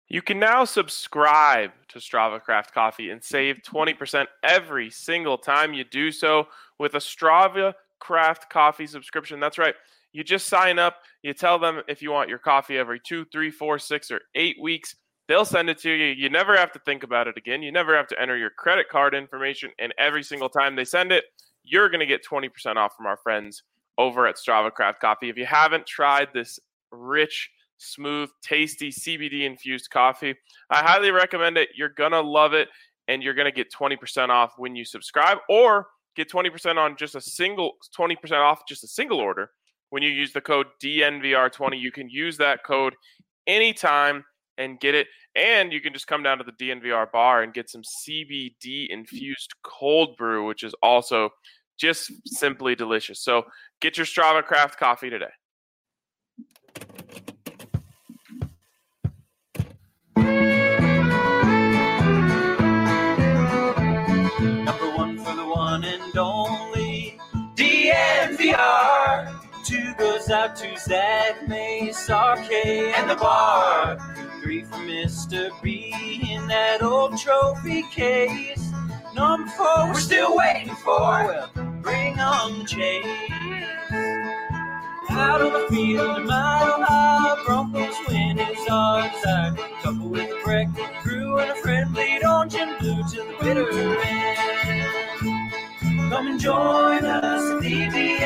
You can now subscribe to Strava Craft Coffee and save 20% every single time you do so with a Strava Craft Coffee subscription. That's right. You just sign up. You tell them if you want your coffee every 2, 3, 4, 6, or 8 weeks. They'll send it to you. You never have to think about it again. You never have to enter your credit card information. And every single time they send it, you're going to get 20% off from our friends over at Strava Craft Coffee. If you haven't tried this rich, smooth, tasty CBD-infused coffee, I highly recommend it. You're going to love it, and you're going to get 20% off when you subscribe, or get 20% on just a single 20% off just a single order when you use the code DNVR20. You can use that code anytime and get it, and you can just come down to the DNVR bar and get some CBD-infused cold brew, which is also just simply delicious. So get your Strava Craft Coffee today. Number one for the one and only DNVR. 2 goes out to Zach Mace, RK, and the bar. 3 for Mr. B in that old trophy case. Number 4 we're still waiting for. Well, bring on the chase. Out on the field, a mile high, Broncos win is our desire. Couple with a breakfast crew and a friendly orange and blue to the bitter end. Come and join us at the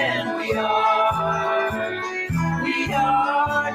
DNVR. We are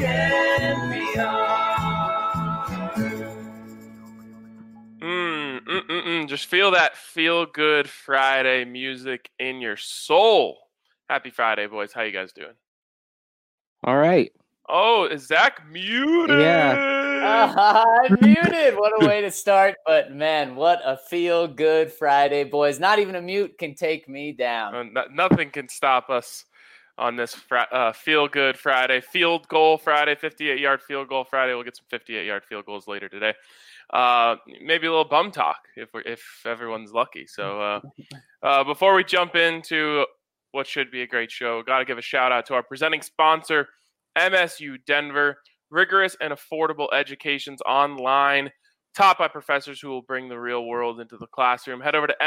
DNVR. Just feel that feel-good Friday music in your soul. Happy Friday, boys. How you guys doing? All right. Oh, is Zach muted? Yeah. I'm muted. What a way to start. But, man, what a feel-good Friday, boys. Not even a mute can take me down. Nothing can stop us on this feel-good Friday. Field goal Friday, 58-yard field goal Friday. We'll get some 58-yard field goals later today. Maybe a little bum talk if everyone's lucky. So before we jump into what should be a great show, got to give a shout out to our presenting sponsor, MSU Denver. Rigorous and affordable educations online, taught by professors who will bring the real world into the classroom. Head over to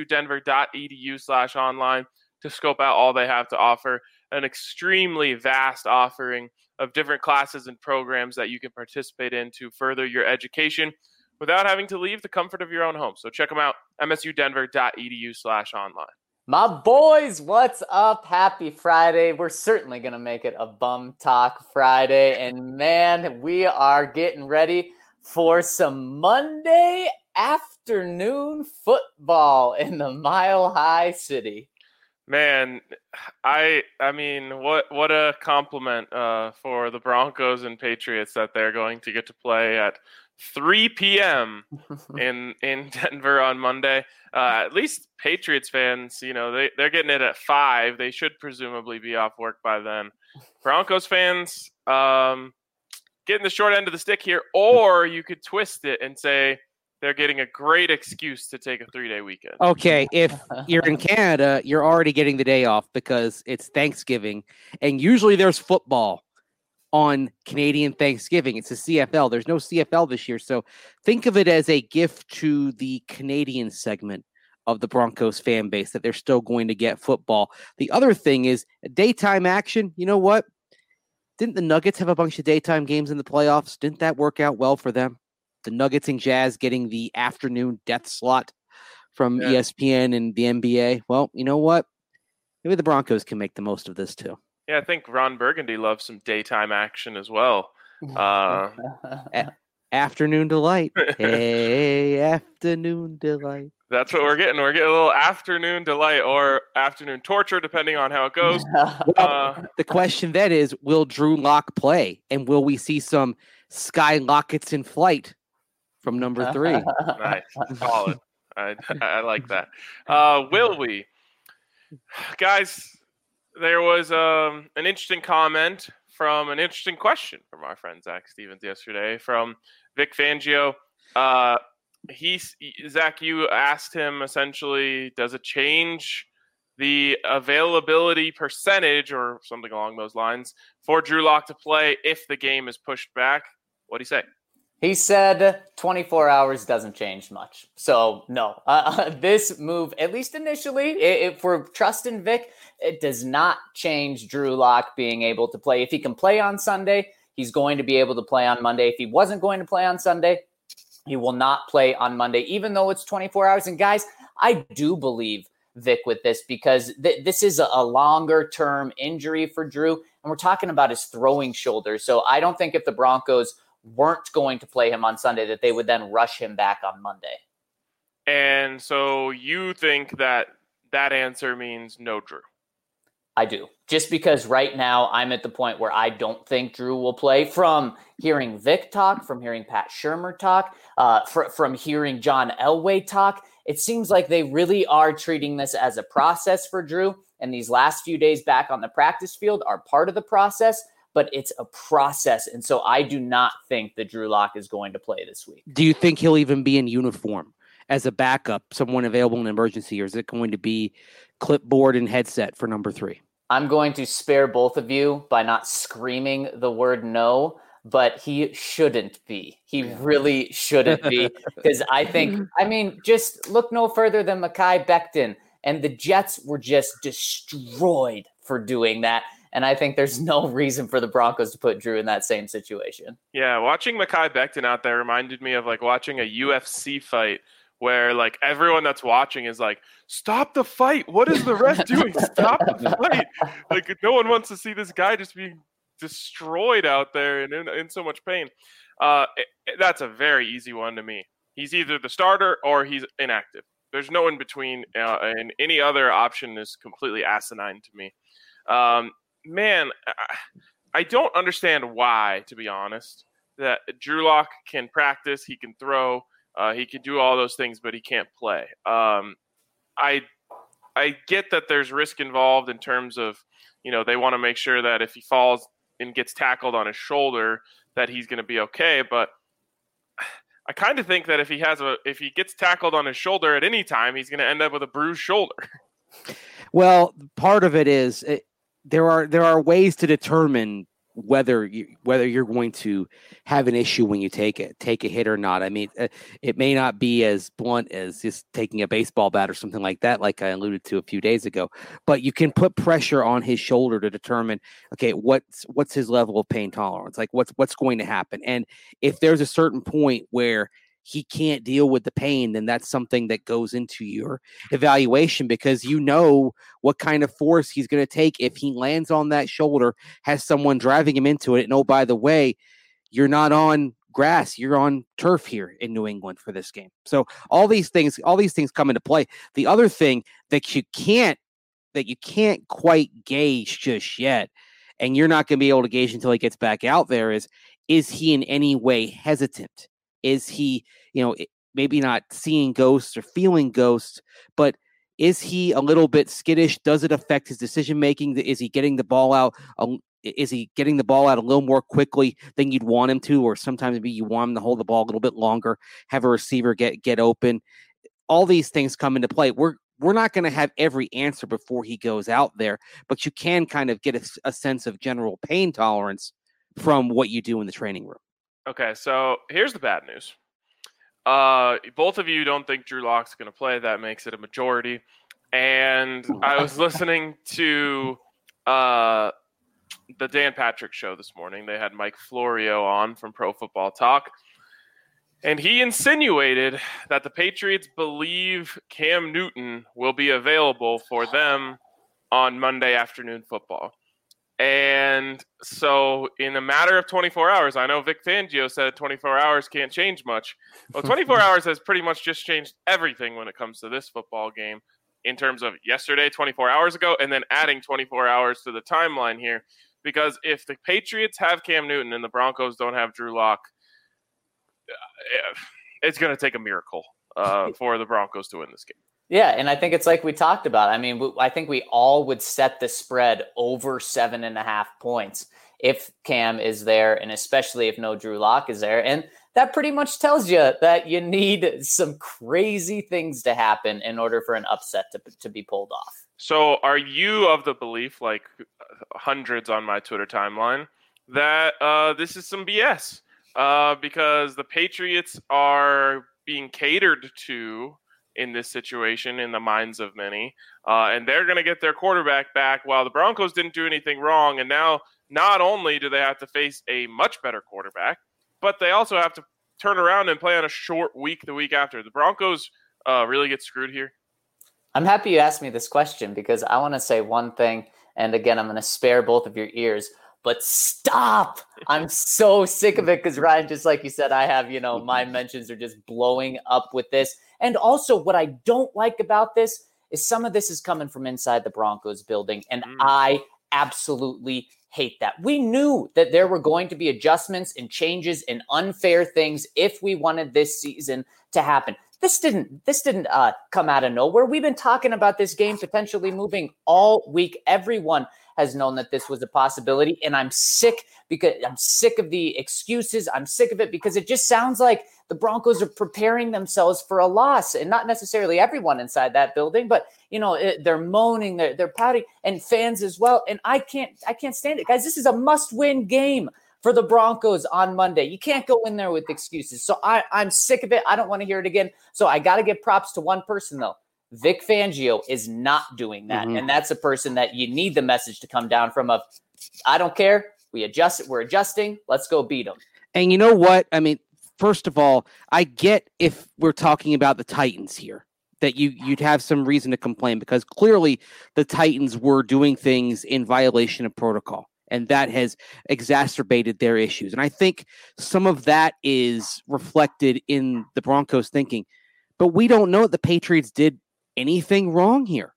msudenver.edu/online to scope out all they have to offer. An extremely vast offering of different classes and programs that you can participate in to further your education without having to leave the comfort of your own home. So check them out, msudenver.edu/online. My boys, what's up? Happy Friday. We're certainly going to make it a bum talk Friday. And, man, we are getting ready for some Monday afternoon football in the Mile High City. Man, I mean, what a compliment for the Broncos and Patriots that they're going to get to play at 3 p.m. in Denver on Monday. At least Patriots fans, they're getting it at 5. They should presumably be off work by then. Broncos fans, getting the short end of the stick here, or you could twist it and say they're getting a great excuse to take a 3-day weekend. Okay, if you're in Canada, you're already getting the day off because it's Thanksgiving, and usually there's football on Canadian Thanksgiving. It's a CFL. There's no CFL this year, so think of it as a gift to the Canadian segment of the Broncos fan base that they're still going to get football. The other thing is daytime action. You know what? Didn't the Nuggets have a bunch of daytime games in the playoffs? Didn't that work out well for them? The Nuggets and Jazz getting the afternoon death slot from ESPN and the NBA. Well, you know what? Maybe the Broncos can make the most of this too. Yeah, I think Ron Burgundy loves some daytime action as well. Afternoon delight. Hey, afternoon delight. That's what we're getting. We're getting a little afternoon delight or afternoon torture, depending on how it goes. Well, the question then is, will Drew Lock play? And will we see some Sky Lockets in flight from number 3? Nice. Solid. I like that. Will we? Guys, there was an interesting comment from an interesting question from our friend Zach Stevens yesterday from Vic Fangio. Zach, you asked him essentially, does it change the availability percentage or something along those lines for Drew Lock to play if the game is pushed back? What do you say? He said 24 hours doesn't change much. So, no, this move, at least initially, if we're trusting Vic, it does not change Drew Lock being able to play. If he can play on Sunday, he's going to be able to play on Monday. If he wasn't going to play on Sunday, he will not play on Monday, even though it's 24 hours. And guys, I do believe Vic with this because this is a longer-term injury for Drew, and we're talking about his throwing shoulder. So I don't think if the Broncos weren't going to play him on Sunday that they would then rush him back on Monday. And so you think that answer means no Drew? I do. Just because right now I'm at the point where I don't think Drew will play. From hearing Vic talk, from hearing Pat Shurmur talk, from hearing John Elway talk, it seems like they really are treating this as a process for Drew. And these last few days back on the practice field are part of the process, but it's a process. And so I do not think that Drew Lock is going to play this week. Do you think he'll even be in uniform as a backup, someone available in emergency, or is it going to be clipboard and headset for number 3? I'm going to spare both of you by not screaming the word no, but he shouldn't be. He really shouldn't be, because I think, just look no further than Mekhi Becton, and the Jets were just destroyed for doing that. And I think there's no reason for the Broncos to put Drew in that same situation. Yeah, watching Mekhi Becton out there reminded me of like watching a UFC fight where like everyone that's watching is like, stop the fight. What is the ref doing? Stop the fight. Like no one wants to see this guy just being destroyed out there and in so much pain. That's a very easy one to me. He's either the starter or he's inactive. There's no in between, and any other option is completely asinine to me. Man, I don't understand why, to be honest, that Drew Lock can practice, he can throw, he can do all those things, but he can't play. I get that there's risk involved in terms of, they want to make sure that if he falls and gets tackled on his shoulder, that he's going to be okay. But I kind of think that if he gets tackled on his shoulder at any time, he's going to end up with a bruised shoulder. Well, part of it is there are ways to determine whether you're going to have an issue when you take a hit or not. I mean, it may not be as blunt as just taking a baseball bat or something like that, like I alluded to a few days ago, but you can put pressure on his shoulder to determine, okay, what's his level of pain tolerance? Like what's going to happen? And if there's a certain point where he can't deal with the pain, then that's something that goes into your evaluation, because you know what kind of force he's going to take if he lands on that shoulder, has someone driving him into it. And oh, by the way, you're not on grass, you're on turf here in New England for this game. So all these things come into play. The other thing that you can't quite gauge just yet, and you're not going to be able to gauge until he gets back out there, is he in any way hesitant? Is he, maybe not seeing ghosts or feeling ghosts, but is he a little bit skittish? Does it affect his decision making? Is he getting the ball out? Is he getting the ball out a little more quickly than you'd want him to? Or sometimes maybe you want him to hold the ball a little bit longer, have a receiver get open. All these things come into play. We're not going to have every answer before he goes out there, but you can kind of get a sense of general pain tolerance from what you do in the training room. Okay, so here's the bad news. Both of you don't think Drew Lock's going to play. That makes it a majority. And I was listening to the Dan Patrick show this morning. They had Mike Florio on from Pro Football Talk. And he insinuated that the Patriots believe Cam Newton will be available for them on Monday Afternoon Football. And so in a matter of 24 hours, I know Vic Fangio said 24 hours can't change much. Well, 24 hours has pretty much just changed everything when it comes to this football game in terms of yesterday, 24 hours ago, and then adding 24 hours to the timeline here. Because if the Patriots have Cam Newton and the Broncos don't have Drew Lock, it's going to take a miracle for the Broncos to win this game. Yeah, and I think it's like we talked about. I mean, I think we all would set the spread over 7.5 points if Cam is there, and especially if no Drew Lock is there. And that pretty much tells you that you need some crazy things to happen in order for an upset to be pulled off. So are you of the belief, like hundreds on my Twitter timeline, that this is some BS? because the Patriots are being catered to in this situation in the minds of many, and they're going to get their quarterback back while the Broncos didn't do anything wrong. And now not only do they have to face a much better quarterback, but they also have to turn around and play on a short week the week after. The Broncos really get screwed here. I'm happy you asked me this question because I want to say one thing, and again, I'm going to spare both of your ears, but stop! I'm so sick of it because, Ryan, just like you said, I have, my mentions are just blowing up with this. And also what I don't like about this is some of this is coming from inside the Broncos building, and I absolutely hate that. We knew that there were going to be adjustments and changes and unfair things if we wanted this season to happen. This didn't come out of nowhere. We've been talking about this game potentially moving all week. Everyone has known that this was a possibility, and I'm sick of the excuses. I'm sick of it because it just sounds like the Broncos are preparing themselves for a loss, and not necessarily everyone inside that building, but they're moaning, they're pouting, and fans as well. And I can't stand it, guys. This is a must-win game for the Broncos on Monday. You can't go in there with excuses. So I'm sick of it. I don't want to hear it again. So I got to give props to one person, though. Vic Fangio is not doing that. And that's a person that you need the message to come down from of, I don't care. We're adjusting. Let's go beat them. And you know what? I mean, first of all, I get if we're talking about the Titans here, that you'd have some reason to complain because clearly the Titans were doing things in violation of protocol. And that has exacerbated their issues. And I think some of that is reflected in the Broncos thinking. But we don't know that the Patriots did anything wrong here.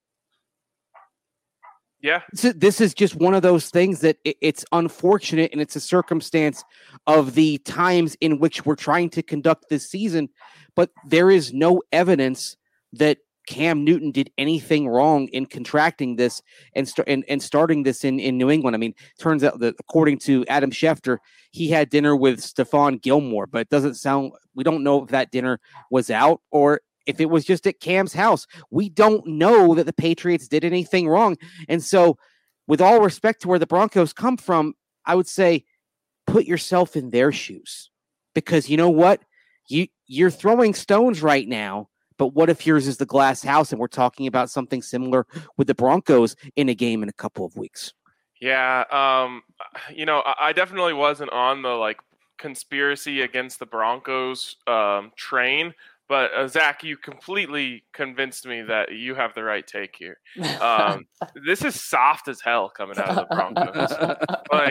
Yeah. This is just one of those things that it's unfortunate, and it's a circumstance of the times in which we're trying to conduct this season. But there is no evidence that Cam Newton did anything wrong in contracting this and starting this in New England. I mean, turns out that according to Adam Schefter, he had dinner with Stephon Gilmore, but it doesn't sound, we don't know if that dinner was out or if it was just at Cam's house. We don't know that the Patriots did anything wrong. And so with all respect to where the Broncos come from, I would say put yourself in their shoes, because you know what? You're throwing stones right now. But what if yours is the glass house and we're talking about something similar with the Broncos in a game in a couple of weeks? Yeah. I definitely wasn't on the conspiracy against the Broncos train, but Zach, you completely convinced me that you have the right take here. This is soft as hell coming out of the Broncos.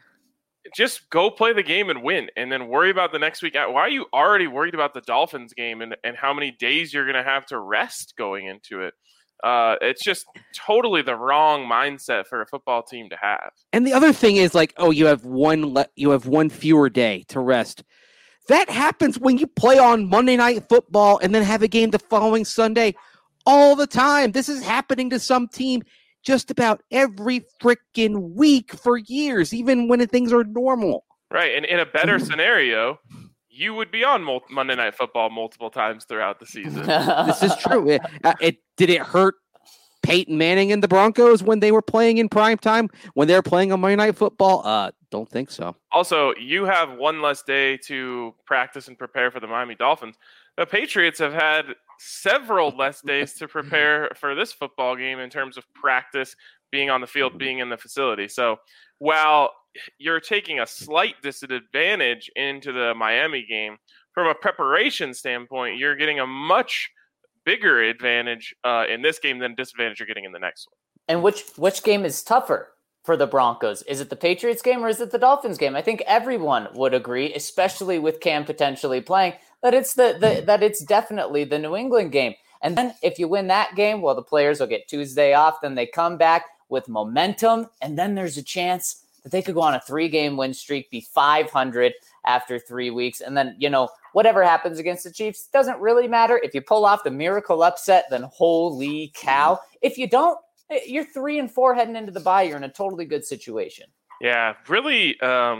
Just go play the game and win, and then worry about the next week. Why are you already worried about the Dolphins game and how many days you're going to have to rest going into it? It's just totally the wrong mindset for a football team to have. And the other thing is you have one fewer day to rest. That happens when you play on Monday Night Football and then have a game the following Sunday all the time. This is happening to some team just about every freaking week for years, even when things are normal. Right, and in a better scenario, you would be on Monday Night Football multiple times throughout the season. This is true. Did it hurt Peyton Manning and the Broncos when they were playing in prime time, when they were playing on Monday Night Football? Don't think so. Also, you have one less day to practice and prepare for the Miami Dolphins. The Patriots have had several less days to prepare for this football game in terms of practice, being on the field, being in the facility. So while you're taking a slight disadvantage into the Miami game, from a preparation standpoint, you're getting a much bigger advantage in this game than disadvantage you're getting in the next one. And which game is tougher for the Broncos? Is it the Patriots game or is it the Dolphins game? I think everyone would agree, especially with Cam potentially playing, that it's definitely the New England game. And then if you win that game, well, the players will get Tuesday off. Then they come back with momentum, and then there's a chance that they could go on a 3-game win streak, be 500 after 3 weeks, and then whatever happens against the Chiefs doesn't really matter. If you pull off the miracle upset, then holy cow! If you don't, you're 3-4 heading into the bye. You're in a totally good situation. Yeah, really,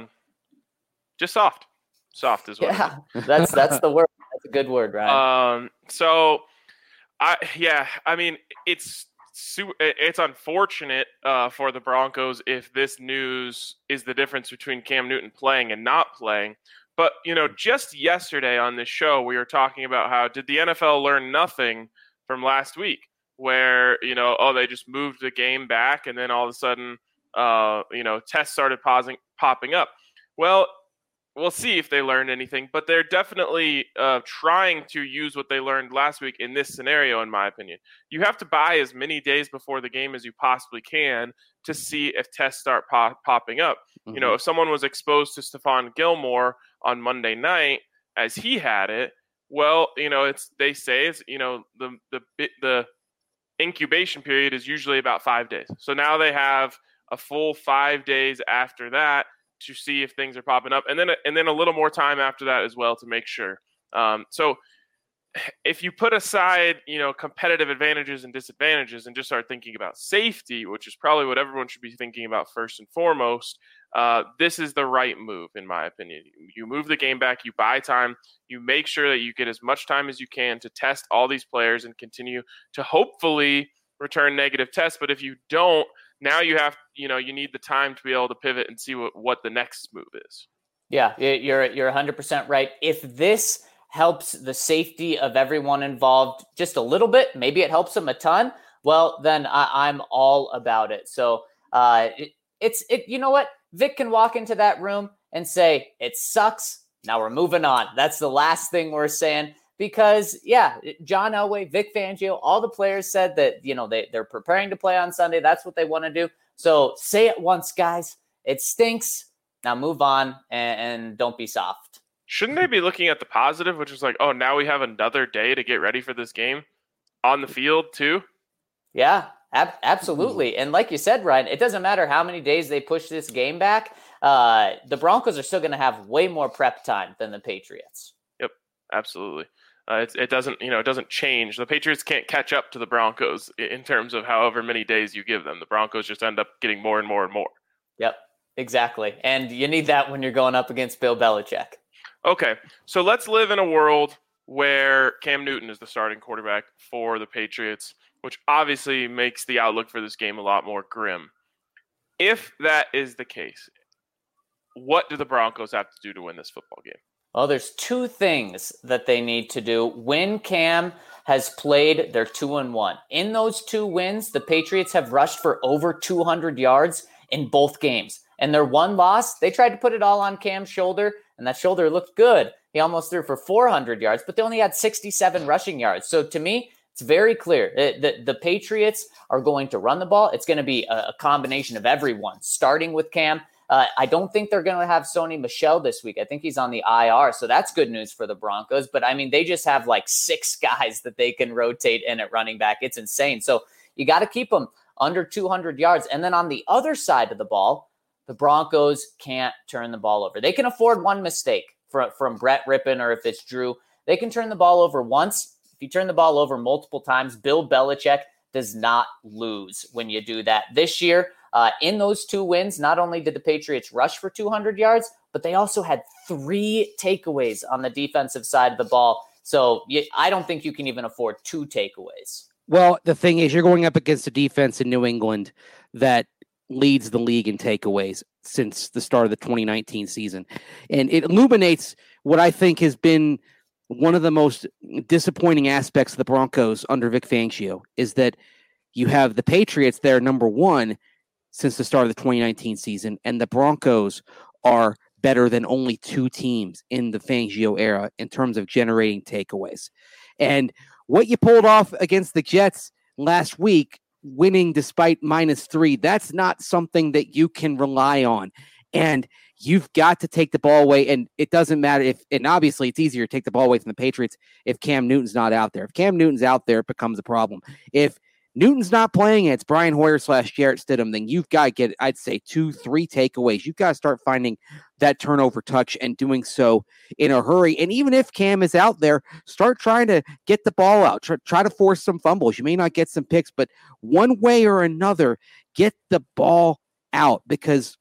just soft. Soft is what. Yeah, that's the word. That's a good word, Ryan. I mean, it's unfortunate for the Broncos if this news is the difference between Cam Newton playing and not playing. But, just yesterday on this show, we were talking about how did the NFL learn nothing from last week where, they just moved the game back and then all of a sudden, tests started popping up. Well, we'll see if they learned anything, but they're definitely trying to use what they learned last week in this scenario, in my opinion. You have to buy as many days before the game as you possibly can to see if tests start popping up. Mm-hmm. If someone was exposed to Stephon Gilmore on Monday night as he had it, well, they say it's the incubation period is usually about 5 days. So now they have a full 5 days after that to see if things are popping up, and then a little more time after that as well to make sure. So if you put aside, competitive advantages and disadvantages and just start thinking about safety, which is probably what everyone should be thinking about first and foremost, this is the right move, in my opinion. You move the game back, you buy time, you make sure that you get as much time as you can to test all these players and continue to hopefully return negative tests. But if you don't, now you have, you need the time to be able to pivot and see what the next move is. Yeah, you're 100% right. If this helps the safety of everyone involved just a little bit, maybe it helps them a ton, well, then I'm all about it. So you know what? Vic can walk into that room and say, it sucks. Now we're moving on. That's the last thing we're saying. Because, John Elway, Vic Fangio, all the players said that, they're preparing to play on Sunday. That's what they want to do. So say it once, guys. It stinks. Now move on and don't be soft. Shouldn't they be looking at the positive, which is like, oh, now we have another day to get ready for this game on the field too? Yeah, absolutely. And like you said, Ryan, it doesn't matter how many days they push this game back. The Broncos are still going to have way more prep time than the Patriots. Yep, absolutely. It doesn't change. The Patriots can't catch up to the Broncos in terms of however many days you give them. The Broncos just end up getting more and more and more. Yep, exactly. And you need that when you're going up against Bill Belichick. Okay, so let's live in a world where Cam Newton is the starting quarterback for the Patriots, which obviously makes the outlook for this game a lot more grim. If that is the case, what do the Broncos have to do to win this football game? Well, there's two things that they need to do. When Cam has played, they're 2-1. In those 2 wins, the Patriots have rushed for over 200 yards in both games. And their one loss, they tried to put it all on Cam's shoulder, and that shoulder looked good. He almost threw for 400 yards, but they only had 67 rushing yards. So to me, it's very clear that the Patriots are going to run the ball. It's going to be a combination of everyone, starting with Cam. I don't think they're going to have Sony Michel this week. I think he's on the IR, so that's good news for the Broncos. But, I mean, they just have like 6 guys that they can rotate in at running back. It's insane. So you got to keep them under 200 yards. And then on the other side of the ball, the Broncos can't turn the ball over. They can afford one mistake from Brett Rippon, or if it's Drew. They can turn the ball over once. If you turn the ball over multiple times, Bill Belichick does not lose when you do that. This year, in those 2 wins, not only did the Patriots rush for 200 yards, but they also had 3 takeaways on the defensive side of the ball. So I don't think you can even afford 2 takeaways. Well, the thing is, you're going up against a defense in New England that leads the league in takeaways since the start of the 2019 season. And it illuminates what I think has been one of the most disappointing aspects of the Broncos under Vic Fangio, is that you have the Patriots there number 1 since the start of the 2019 season, and the Broncos are better than only 2 teams in the Fangio era in terms of generating takeaways. And what you pulled off against the Jets last week, winning despite -3, that's not something that you can rely on. And you've got to take the ball away, and it doesn't matter if, and obviously it's easier to take the ball away from the Patriots if Cam Newton's not out there. If Cam Newton's out there, it becomes a problem. If Newton's not playing and it's Brian Hoyer / Jarrett Stidham, then you've got to get, I'd say, 2-3 takeaways. You've got to start finding that turnover touch and doing so in a hurry. And even if Cam is out there, start trying to get the ball out. Try to force some fumbles. You may not get some picks, but one way or another, get the ball out, because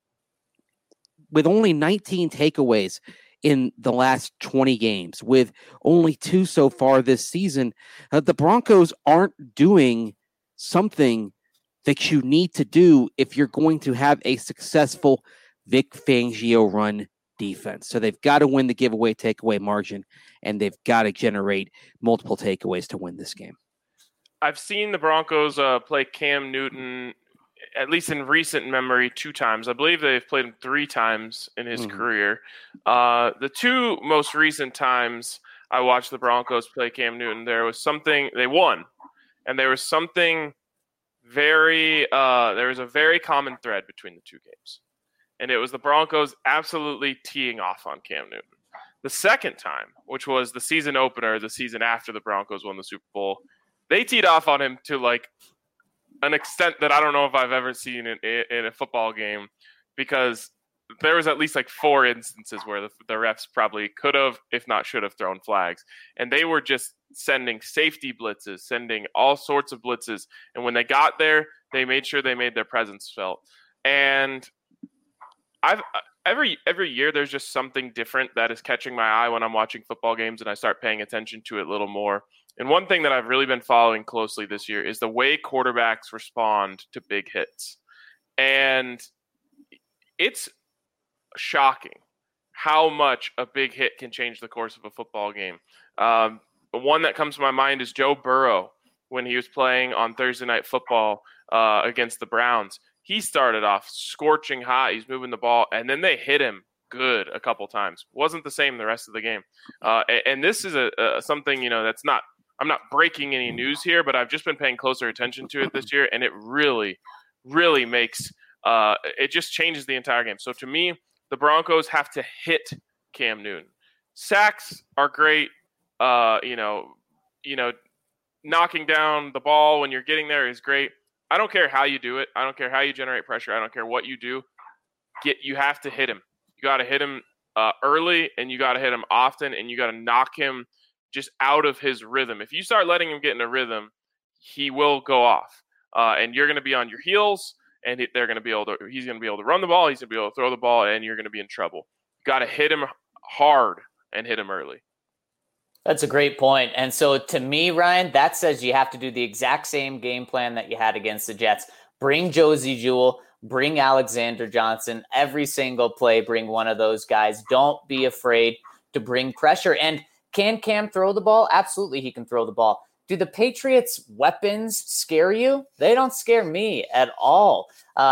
with only 19 takeaways in the last 20 games, with only 2 so far this season, the Broncos aren't doing something that you need to do if you're going to have a successful Vic Fangio run defense. So they've got to win the giveaway takeaway margin, and they've got to generate multiple takeaways to win this game. I've seen the Broncos play Cam Newton, at least in recent memory, 2 times. I believe they've played him 3 times in his career. The 2 most recent times I watched the Broncos play Cam Newton, there was something – they won. And there was something there was a very common thread between the 2 games. And it was the Broncos absolutely teeing off on Cam Newton. The second time, which was the season opener, the season after the Broncos won the Super Bowl, they teed off on him to like an extent that I don't know if I've ever seen in a football game, because there was at least like 4 instances where the refs probably could have, if not should have, thrown flags. And they were just sending safety blitzes, sending all sorts of blitzes. And when they got there, they made sure they made their presence felt. And every year there's just something different that is catching my eye when I'm watching football games, and I start paying attention to it a little more. And one thing that I've really been following closely this year is the way quarterbacks respond to big hits. And it's shocking how much a big hit can change the course of a football game. The one that comes to my mind is Joe Burrow when he was playing on Thursday Night Football against the Browns. He started off scorching hot. He's moving the ball, and then they hit him good a couple times. Wasn't the same the rest of the game. And this is something, that's not – I'm not breaking any news here, but I've just been paying closer attention to it this year, and it really, really makes it just changes the entire game. So to me, the Broncos have to hit Cam Newton. Sacks are great. Knocking down the ball when you're getting there is great. I don't care how you do it. I don't care how you generate pressure. I don't care what you do. You have to hit him. You got to hit him early, and you got to hit him often, and you got to knock him just out of his rhythm. If you start letting him get in a rhythm, he will go off, and you're going to be on your heels. And he's going to be able to run the ball. He's going to be able to throw the ball, and you're going to be in trouble. You got to hit him hard and hit him early. That's a great point. And so to me, Ryan, that says you have to do the exact same game plan that you had against the Jets. Bring Josie Jewell, bring Alexander Johnson, every single play, bring one of those guys. Don't be afraid to bring pressure. And can Cam throw the ball? Absolutely, he can throw the ball. Do the Patriots' weapons scare you? They don't scare me at all.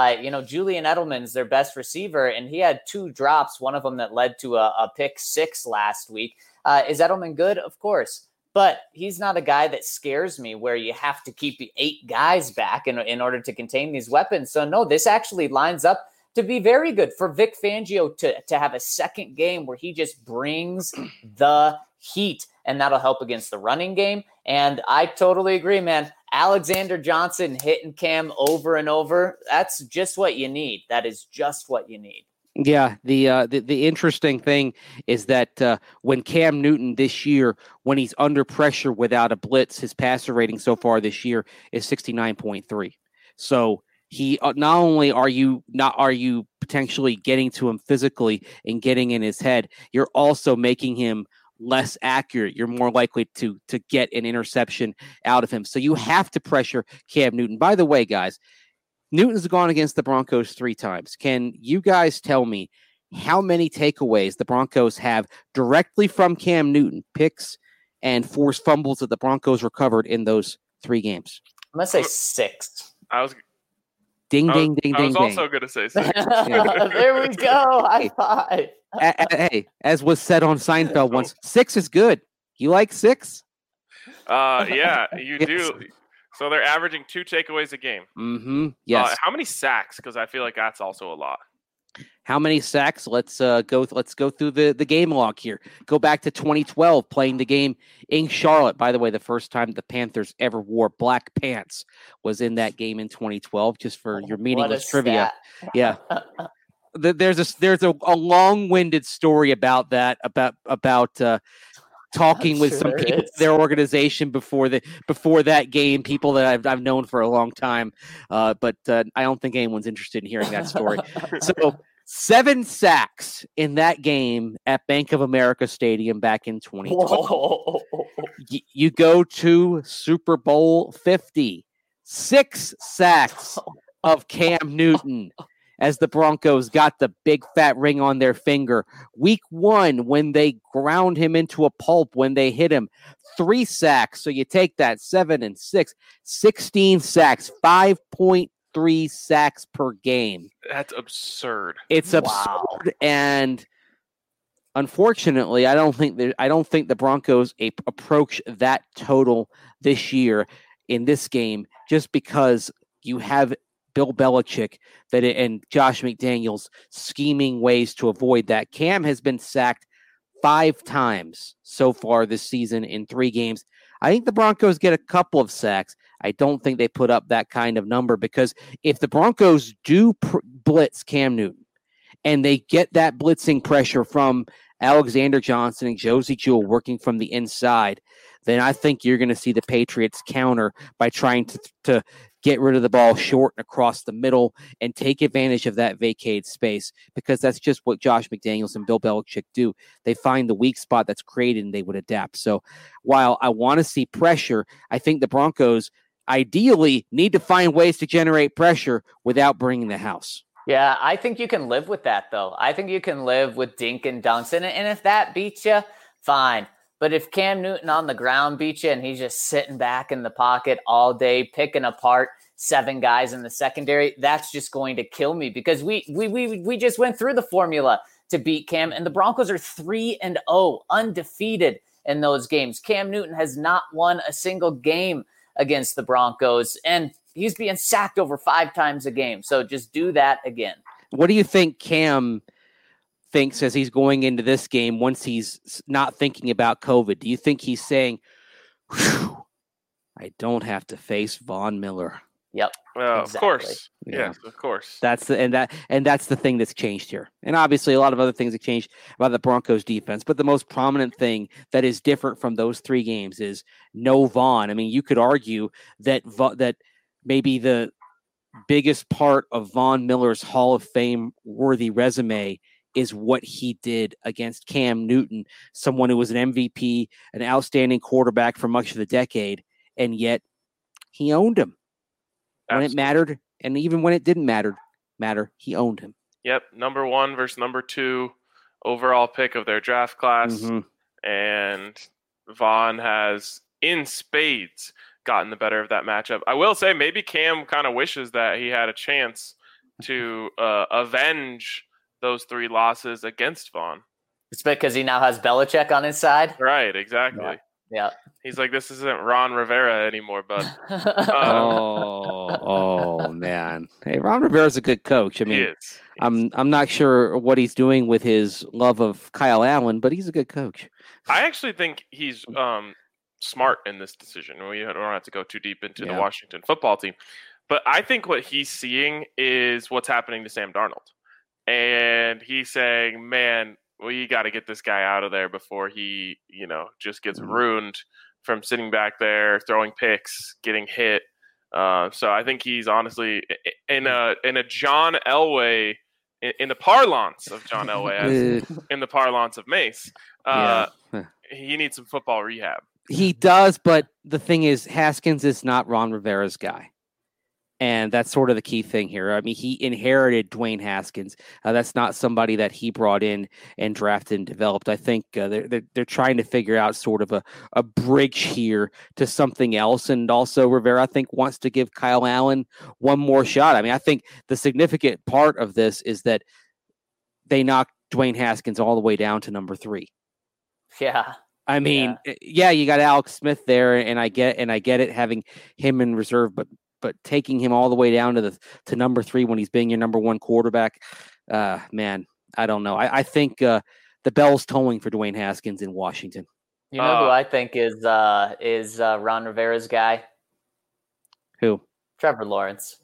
Julian Edelman's their best receiver, and he had 2 drops, one of them that led to a pick 6 last week. Is Edelman good? Of course. But he's not a guy that scares me where you have to keep 8 guys back in order to contain these weapons. So, no, this actually lines up to be very good for Vic Fangio to have a second game where he just brings the heat, and that'll help against the running game. And I totally agree, man. Alexander Johnson hitting Cam over and over, that's just what you need. That is just what you need. Yeah, the interesting thing is that when Cam Newton this year, when he's under pressure without a blitz, his passer rating so far this year is 69.3. So he not only are you potentially getting to him physically and getting in his head, you're also making him less accurate. You're more likely to get an interception out of him. So you have to pressure Cam Newton. By the way, guys, Newton's gone against the Broncos 3 times. Can you guys tell me how many takeaways the Broncos have directly from Cam Newton, picks and forced fumbles that the Broncos recovered in those 3 games? I'm going to say 6. Ding. I was also going to say 6. There we go. High five. Hey, as was said on Seinfeld once, 6 is good. You like 6? Yeah, you do. So they're averaging 2 takeaways a game. Mm-hmm. Yes. How many sacks? Because I feel like that's also a lot. How many sacks? Let's go through the game log here. Go back to 2012, playing the game in Charlotte. By the way, the first time the Panthers ever wore black pants was in that game in 2012. Just for your meaningless trivia. Yeah. There's a long-winded story about that about talking with some people in their organization before that game, people that I've known for a long time, but I don't think anyone's interested in hearing that story. So 7 sacks in that game at Bank of America Stadium back in 2012. You go to Super Bowl 50, 6 sacks of Cam Newton. as the Broncos got the big fat ring on their finger. Week 1, when they ground him into a pulp, when they hit him, 3 sacks. So you take that 7 and 6, 16 sacks, 5.3 sacks per game. That's absurd. It's absurd, and unfortunately, I don't think the Broncos approach that total this year in this game, just because you have Bill Belichick and Josh McDaniels scheming ways to avoid that. Cam has been sacked 5 times so far this season in 3 games. I think the Broncos get a couple of sacks. I don't think they put up that kind of number, because if the Broncos do blitz Cam Newton and they get that blitzing pressure from Alexander Johnson and Josie Jewell working from the inside, then I think you're going to see the Patriots counter by trying to get rid of the ball short and across the middle and take advantage of that vacated space, because that's just what Josh McDaniels and Bill Belichick do. They find the weak spot that's created and they would adapt. So while I want to see pressure, I think the Broncos ideally need to find ways to generate pressure without bringing the house. Yeah, I think you can live with that, though. I think you can live with dink and dunks. And if that beats you, fine. But if Cam Newton on the ground beats you and he's just sitting back in the pocket all day, picking apart 7 guys in the secondary, that's just going to kill me, because we just went through the formula to beat Cam, and the Broncos are 3-0, undefeated in those games. Cam Newton has not won a single game against the Broncos, and he's being sacked over 5 times a game. So just do that again. What do you think Cam thinks as he's going into this game once he's not thinking about COVID? Do you think he's saying, I don't have to face Von Miller? Yep. Exactly. Of course. Yeah, of course. That's the thing that's changed here. And obviously a lot of other things have changed about the Broncos defense, but the most prominent thing that is different from those 3 games is no Von. I mean, you could argue that maybe the biggest part of Von Miller's Hall of Fame worthy resume is what he did against Cam Newton, someone who was an MVP, an outstanding quarterback for much of the decade, and yet he owned him when it mattered, and even when it didn't matter, he owned him. Yep, number 1 versus number 2 overall pick of their draft class, and Von has, in spades, gotten the better of that matchup. I will say maybe Cam kind of wishes that he had a chance to avenge those 3 losses against Von. It's because he now has Belichick on his side. Right, exactly. Yeah. He's like, this isn't Ron Rivera anymore, bud. Oh man. Hey, Ron Rivera's a good coach. I mean, he is. I'm not sure what he's doing with his love of Kyle Allen, but he's a good coach. I actually think he's smart in this decision. We don't have to go too deep into the Washington football team, but I think what he's seeing is what's happening to Sam Darnold. And he's saying, man, we got to get this guy out of there before he, just gets ruined from sitting back there, throwing picks, getting hit. So I think he's honestly in a John Elway, in the parlance of John Elway, in the parlance of Mace, he needs some football rehab. He does, but the thing is, Haskins is not Ron Rivera's guy. And that's sort of the key thing here. I mean, he inherited Dwayne Haskins. That's not somebody that he brought in and drafted and developed. I think they're trying to figure out sort of a bridge here to something else. And also Rivera, I think, wants to give Kyle Allen one more shot. I mean, I think the significant part of this is that they knocked Dwayne Haskins all the way down to number 3. Yeah. I mean, you got Alex Smith there, and I get it having him in reserve, but taking him all the way down to number 3 when he's being your number 1 quarterback, man, I don't know. I think the bell's tolling for Dwayne Haskins in Washington. You know who I think is Ron Rivera's guy? Who? Trevor Lawrence.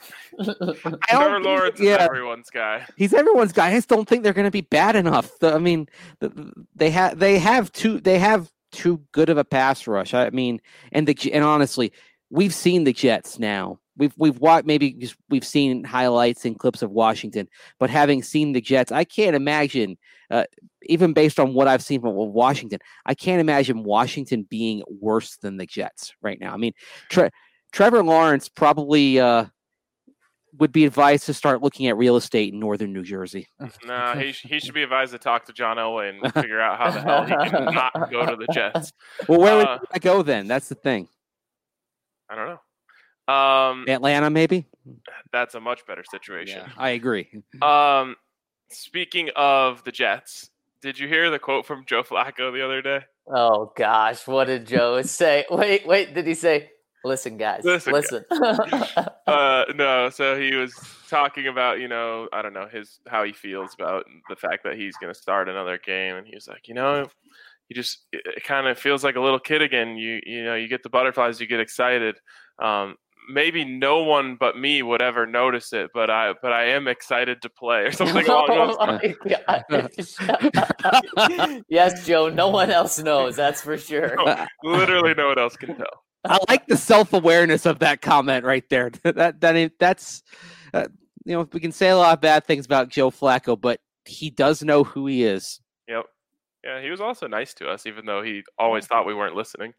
Trevor Lawrence is everyone's guy. He's everyone's guy. I just don't think they're going to be bad enough. I mean, they have too good of a pass rush. I mean, and honestly, we've seen the Jets now. We've watched, we've seen highlights and clips of Washington, but having seen the Jets, I can't imagine, even based on what I've seen from Washington, I can't imagine Washington being worse than the Jets right now. I mean, Trevor Lawrence probably would be advised to start looking at real estate in northern New Jersey. Nah, he should be advised to talk to John Elway and figure out how the hell he can not go to the Jets. Well, where would I go then? That's the thing. I don't know. Atlanta, maybe. That's a much better situation. Yeah, I agree. Speaking of the Jets, did you hear the quote from Joe Flacco the other day? Oh gosh, what did Joe say? Wait, did he say, listen, guys, listen. No, so he was talking about, I don't know, how he feels about the fact that he's going to start another game. And he was like, it kind of feels like a little kid again. You get the butterflies, you get excited. Maybe no one but me would ever notice it, but I am excited to play or something along those lines. Yes, Joe, no one else knows, that's for sure. No, literally no one else can tell. I like the self-awareness of that comment right there. That's we can say a lot of bad things about Joe Flacco, but he does know who he is. Yep. Yeah, he was also nice to us, even though he always thought we weren't listening.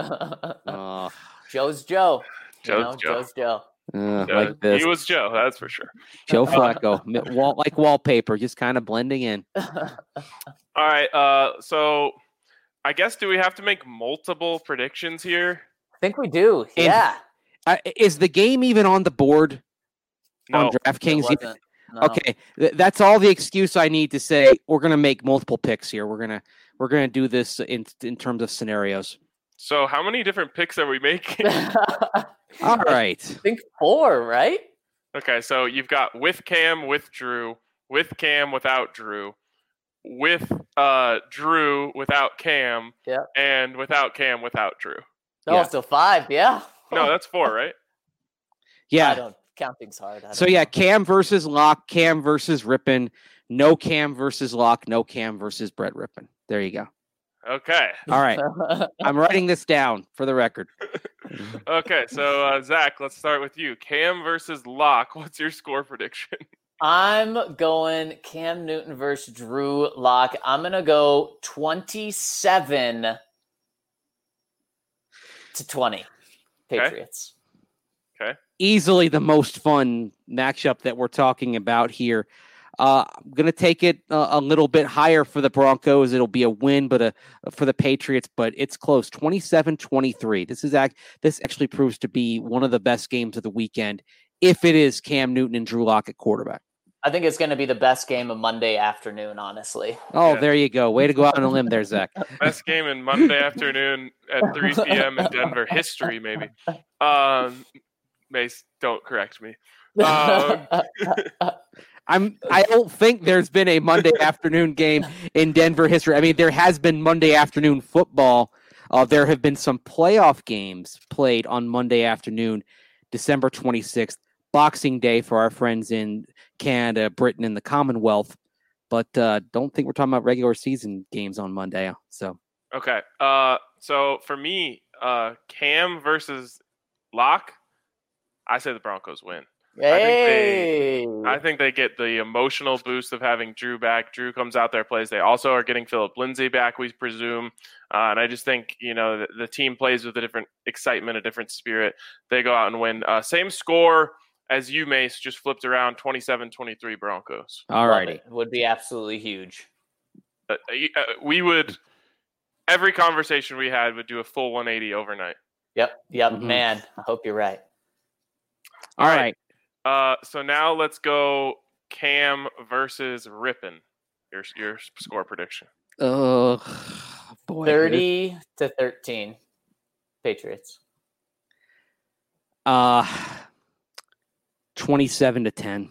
Joe's Joe. Joe's Joe. Like this. He was Joe, that's for sure. Joe Flacco, like wallpaper, just kind of blending in. All right, so I guess do we have to make multiple predictions here? I think we do. Yeah. Is the game even on the board on DraftKings? No. Okay, that's all the excuse I need to say. We're gonna make multiple picks here. We're gonna do this in terms of scenarios. So how many different picks are we making? All right. I think 4, right? Okay, so you've got with Cam, with Drew, with Cam, without Drew, with Drew, without Cam, and without Cam, without Drew. Oh, so 5, yeah. No, that's 4, right? Yeah. Counting's hard. So yeah, Cam versus Locke, Cam versus Rippon, no Cam versus Locke, no Cam versus Brett Rippon. There you go. Okay. All right. I'm writing this down for the record. Okay, so Zach, let's start with you. Cam versus Locke. What's your score prediction? I'm going Cam Newton versus Drew Lock. I'm going to go 27-20 Patriots. Okay. Easily the most fun matchup that we're talking about here. I'm going to take it a little bit higher for the Broncos. It'll be a win, but for the Patriots, but it's close. 27-23. This actually proves to be one of the best games of the weekend if it is Cam Newton and Drew Lock at quarterback. I think it's going to be the best game of Monday afternoon, honestly. Oh, There you go. Way to go out on a limb there, Zach. Best game in Monday afternoon at 3 p.m. in Denver history, maybe. Mace, don't correct me. I don't think there's been a Monday afternoon game in Denver history. I mean, there has been Monday afternoon football. There have been some playoff games played on Monday afternoon, December 26th, Boxing Day for our friends in Canada, Britain, and the Commonwealth. But don't think we're talking about regular season games on Monday. So okay. So for me, Cam versus Locke, I say the Broncos win. Hey. I think they get the emotional boost of having Drew back. Drew comes out there, plays. They also are getting Philip Lindsay back, we presume. And I just think, the team plays with a different excitement, a different spirit. They go out and win. Same score as you, Mace, just flipped around, 27-23 Broncos. All righty. It would be absolutely huge. We would, every conversation we had would do a full 180 overnight. Yep, mm-hmm. Man, I hope you're right. All right. So now let's go Cam versus Rippon. Your score prediction. Oh, boy. 30-13 Patriots. 27-10.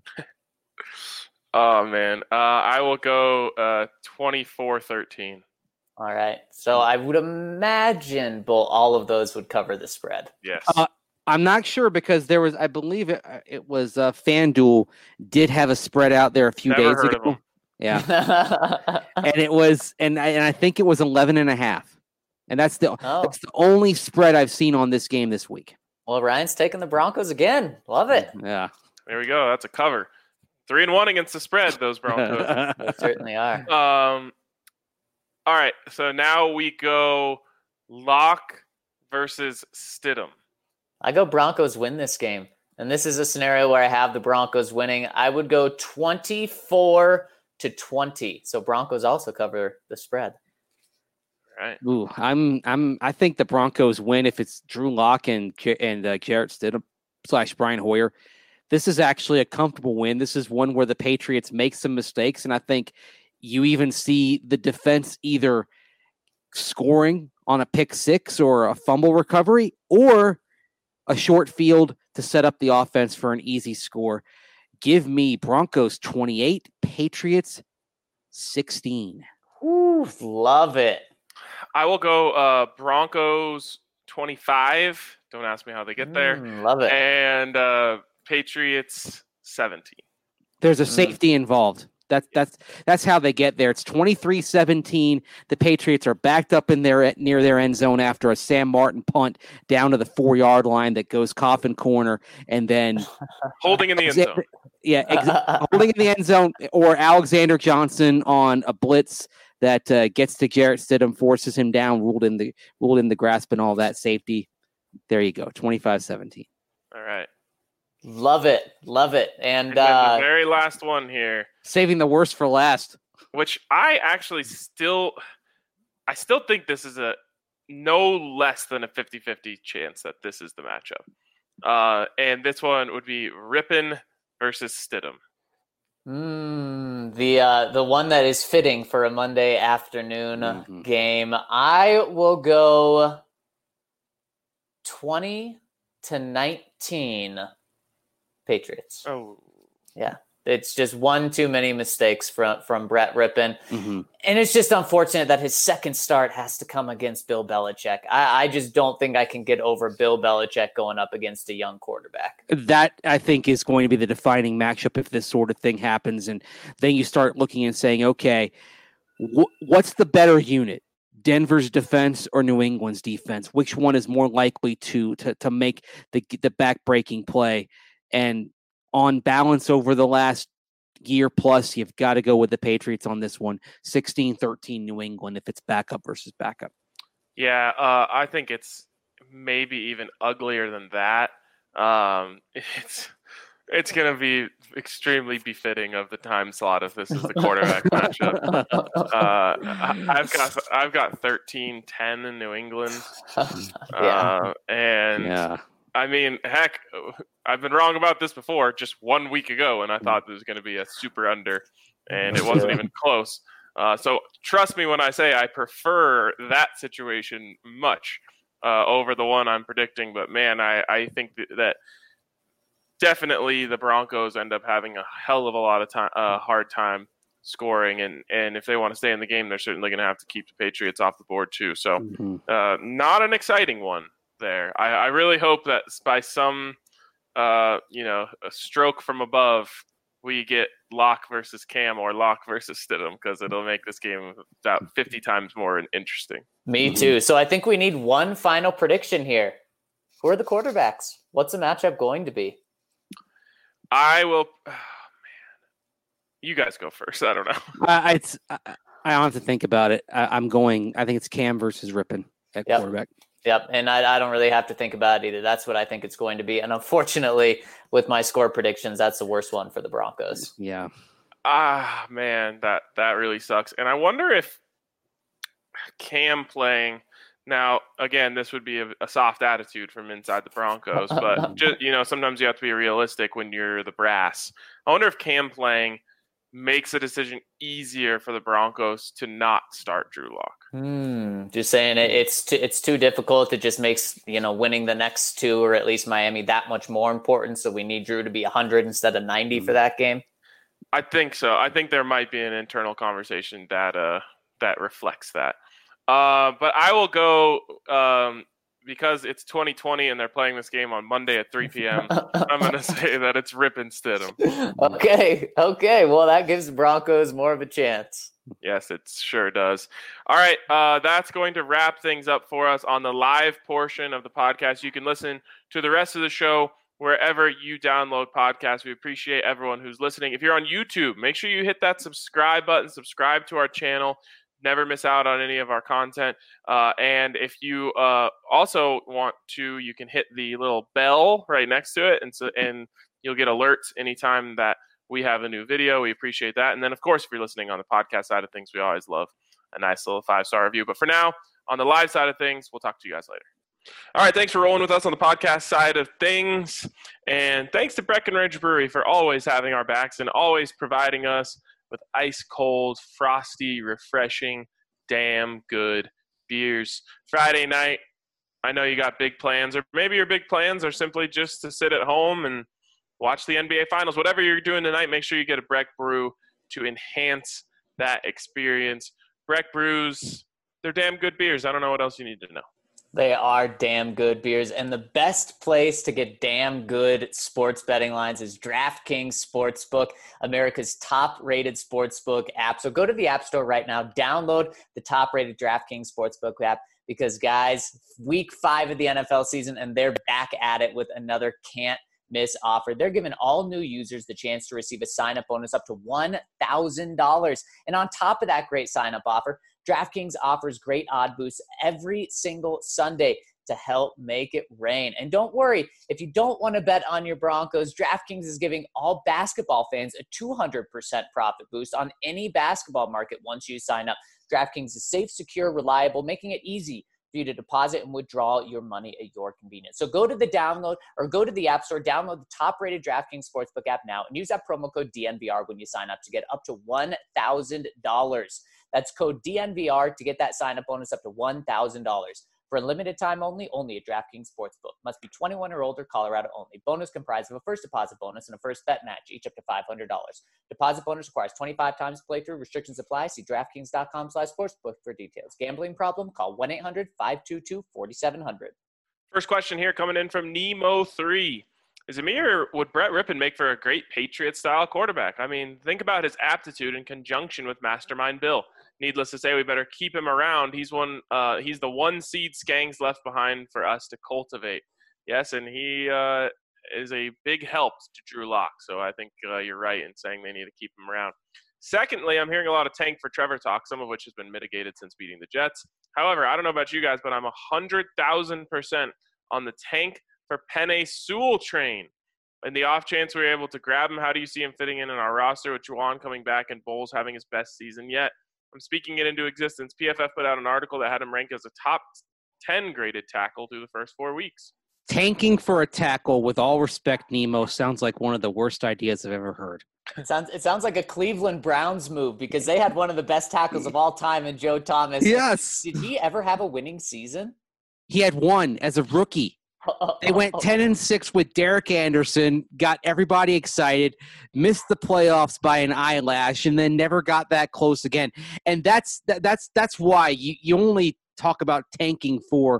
Oh, man. I will go 24-13. All right. So I would imagine all of those would cover the spread. Yes. I'm not sure because there was, I believe it was FanDuel did have a spread out there a few days ago. Yeah. And it was, and I think it was 11.5. And that's the only spread I've seen on this game this week. Well, Ryan's taking the Broncos again. Love it. Yeah. There we go. That's a cover. 3-1 against the spread, those Broncos. They certainly are. All right. So now we go Locke versus Stidham. I go Broncos win this game. And this is a scenario where I have the Broncos winning. I would go 24-20. So Broncos also cover the spread. Right. Ooh, I think the Broncos win if it's Drew Lock and Jarrett Stidham / Brian Hoyer. This is actually a comfortable win. This is one where the Patriots make some mistakes, and I think you even see the defense either scoring on a pick six or a fumble recovery or a short field to set up the offense for an easy score. Give me Broncos 28, Patriots 16. Ooh, love it. I will go Broncos 25. Don't ask me how they get there. Love it. And Patriots 17. There's a safety involved. That's how they get there. It's 23-17. The Patriots are backed up in near their end zone after a Sam Martin punt down to the 4-yard line that goes coffin corner, and then holding in the end zone. Holding in the end zone, or Alexander Johnson on a blitz that gets to Jarrett Stidham, forces him down, ruled in the grasp and all that safety. There you go, 25-17. All right. Love it. And then the very last one here. Saving the worst for last. Which I actually still think this is a no less than a 50-50 chance that this is the matchup. And this one would be Rypien versus Stidham. The one that is fitting for a Monday afternoon game. I will go 20-19 Patriots. Oh. Yeah. It's just one too many mistakes from Brett Rypien. And it's just unfortunate that his second start has to come against Bill Belichick. I just don't think I can get over Bill Belichick going up against a young quarterback. That, I think, is going to be the defining matchup if this sort of thing happens. And then you start looking and saying, okay, what's the better unit? Denver's defense or New England's defense? Which one is more likely to make the back-breaking play? And on balance over the last year plus, you've got to go with the Patriots on this one. 16-13 New England if it's backup versus backup. Yeah, I think it's maybe even uglier than that. It's going to be extremely befitting of the time slot if this is the quarterback matchup. I've got 13-10 in New England. I mean, heck, I've been wrong about this before just 1 week ago, and I thought this was going to be a super under, and it wasn't even close. So trust me when I say I prefer that situation much over the one I'm predicting. But, man, I think that definitely the Broncos end up having a hell of a lot of hard time scoring, and if they want to stay in the game, they're certainly going to have to keep the Patriots off the board too. So not an exciting one there. I really hope that by some a stroke from above we get Locke versus Cam or Locke versus Stidham, because it'll make this game about 50 times more interesting. Me too. So I think we need one final prediction here. Who are the quarterbacks? What's the matchup going to be? I will. Oh, man, you guys go first. I don't know. I don't have to think about it. I think it's Cam versus Rypien at quarterback. Yep, and I don't really have to think about it either. That's what I think it's going to be. And unfortunately, with my score predictions, that's the worst one for the Broncos. Yeah. Man, that really sucks. And I wonder if Cam playing now, again, this would be a soft attitude from inside the Broncos, but just, sometimes you have to be realistic when you're the brass. I wonder if Cam playing makes a decision easier for the Broncos to not start Drew Lock. Just saying it's too difficult. It just makes, winning the next two, or at least Miami, that much more important. So we need Drew to be 100 instead of 90 for that game. I think so. I think there might be an internal conversation that reflects that. But I will go because it's 2020 and they're playing this game on Monday at 3 p.m. I'm going to say that it's Rypien Stidham. Okay. Well, that gives the Broncos more of a chance. Yes, it sure does. All right, that's going to wrap things up for us on the live portion of the podcast. You can listen to the rest of the show wherever you download podcasts. We appreciate everyone who's listening. If you're on YouTube, make sure you hit that subscribe button, subscribe to our channel. Never miss out on any of our content. And if you also want to, you can hit the little bell right next to it, and you'll get alerts anytime that we have a new video. We appreciate that. And then, of course, if you're listening on the podcast side of things, we always love a nice little 5-star review. But for now, on the live side of things, we'll talk to you guys later. All right, thanks for rolling with us on the podcast side of things. And thanks to Breckenridge Brewery for always having our backs and always providing us with ice cold, frosty, refreshing, damn good beers. Friday night, I know you got big plans, or maybe your big plans are simply just to sit at home and watch the NBA Finals. Whatever you're doing tonight, make sure you get a Breck Brew to enhance that experience. Breck Brews, they're damn good beers. I don't know what else you need to know. They are damn good beers. And the best place to get damn good sports betting lines is DraftKings Sportsbook, America's top-rated sportsbook app. So go to the App Store right now, download the top-rated DraftKings Sportsbook app, because, guys, week 5 of the NFL season, and they're back at it with another can't-miss offer. They're giving all new users the chance to receive a sign-up bonus up to $1,000. And on top of that great sign-up offer, DraftKings offers great odd boosts every single Sunday to help make it rain. And don't worry, if you don't want to bet on your Broncos, DraftKings is giving all basketball fans a 200% profit boost on any basketball market once you sign up. DraftKings is safe, secure, reliable, making it easy for you to deposit and withdraw your money at your convenience. So go to the App Store, download the top-rated DraftKings Sportsbook app now, and use that promo code DNVR when you sign up to get up to $1,000. That's code DNVR to get that sign-up bonus up to $1,000. For a limited time only at DraftKings Sportsbook. Must be 21 or older, Colorado only. Bonus comprised of a first deposit bonus and a first bet match, each up to $500. Deposit bonus requires 25 times playthrough. Restrictions apply. See DraftKings.com/sportsbook for details. Gambling problem? Call 1-800-522-4700. First question here coming in from Nemo3. Is Amir, would Brett Rippon make for a great Patriot-style quarterback? I mean, think about his aptitude in conjunction with Mastermind Bill. Needless to say, we better keep him around. He's the one seed Skanks left behind for us to cultivate. Yes, and he is a big help to Drew Lock. So I think you're right in saying they need to keep him around. Secondly, I'm hearing a lot of tank for Trevor talk, some of which has been mitigated since beating the Jets. However, I don't know about you guys, but I'm 100,000% on the tank for Penei Sewell train. In the off chance we're able to grab him, how do you see him fitting in our roster with Juwan coming back and Bowles having his best season yet? I'm speaking it into existence. PFF put out an article that had him ranked as a top 10 graded tackle through the first 4 weeks. Tanking for a tackle, with all respect, Nemo, sounds like one of the worst ideas I've ever heard. It sounds like a Cleveland Browns move, because they had one of the best tackles of all time in Joe Thomas. Yes. Did he ever have a winning season? He had one as a rookie. They went 10-6 with Derek Anderson, got everybody excited, missed the playoffs by an eyelash, and then never got that close again. And that's why you only talk about tanking for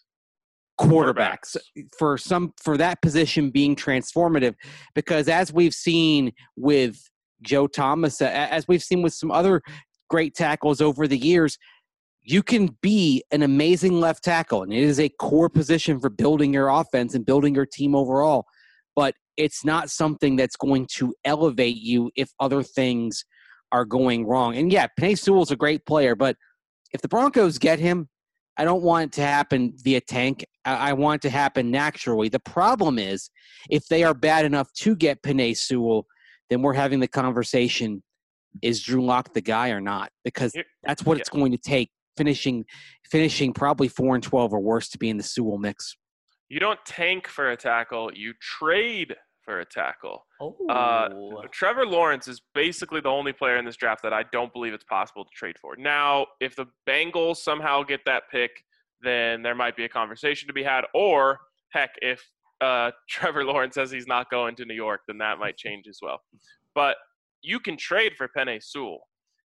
quarterbacks, for that position being transformative, because as we've seen with Joe Thomas, as we've seen with some other great tackles over the years, you can be an amazing left tackle, and it is a core position for building your offense and building your team overall. But it's not something that's going to elevate you if other things are going wrong. And yeah, Penei Sewell's a great player, but if the Broncos get him, I don't want it to happen via tank. I want it to happen naturally. The problem is, if they are bad enough to get Penei Sewell, then we're having the conversation, is Drew Lock the guy or not? Because that's what it's going to take. Finishing probably 4-12 or worse to be in the Sewell mix. You don't tank for a tackle, you trade for a tackle. Trevor Lawrence is basically the only player in this draft that I don't believe it's possible to trade for. Now, if the Bengals somehow get that pick, then there might be a conversation to be had. Or, heck, if Trevor Lawrence says he's not going to New York, then that might change as well. But you can trade for Penei Sewell.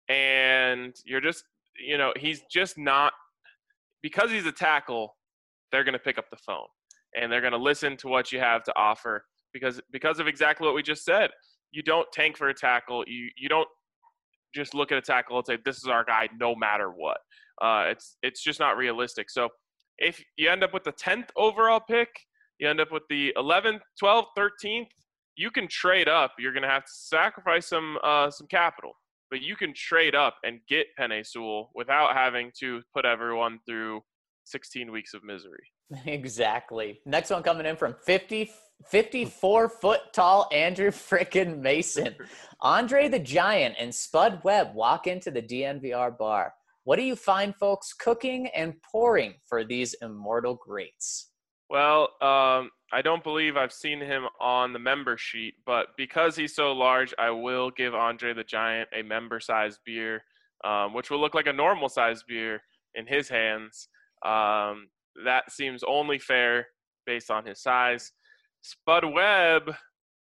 And you're just – he's just not – because he's a tackle, they're going to pick up the phone. And they're going to listen to what you have to offer because of exactly what we just said. You don't tank for a tackle. You don't just look at a tackle and say, this is our guy no matter what. It's just not realistic. So if you end up with the 10th overall pick, you end up with the 11th, 12th, 13th, you can trade up. You're going to have to sacrifice some capital. but you can trade up and get Penei Sewell without having to put everyone through 16 weeks of misery. Exactly. Next one coming in from 54 foot tall Andrew frickin' Mason. Andre the Giant and Spud Webb walk into the DNVR bar. What do you find folks cooking and pouring for these immortal greats? Well, I don't believe I've seen him on the member sheet, but because he's so large, I will give Andre the Giant a member-sized beer, which will look like a normal-sized beer in his hands. That seems only fair based on his size. Spud Webb,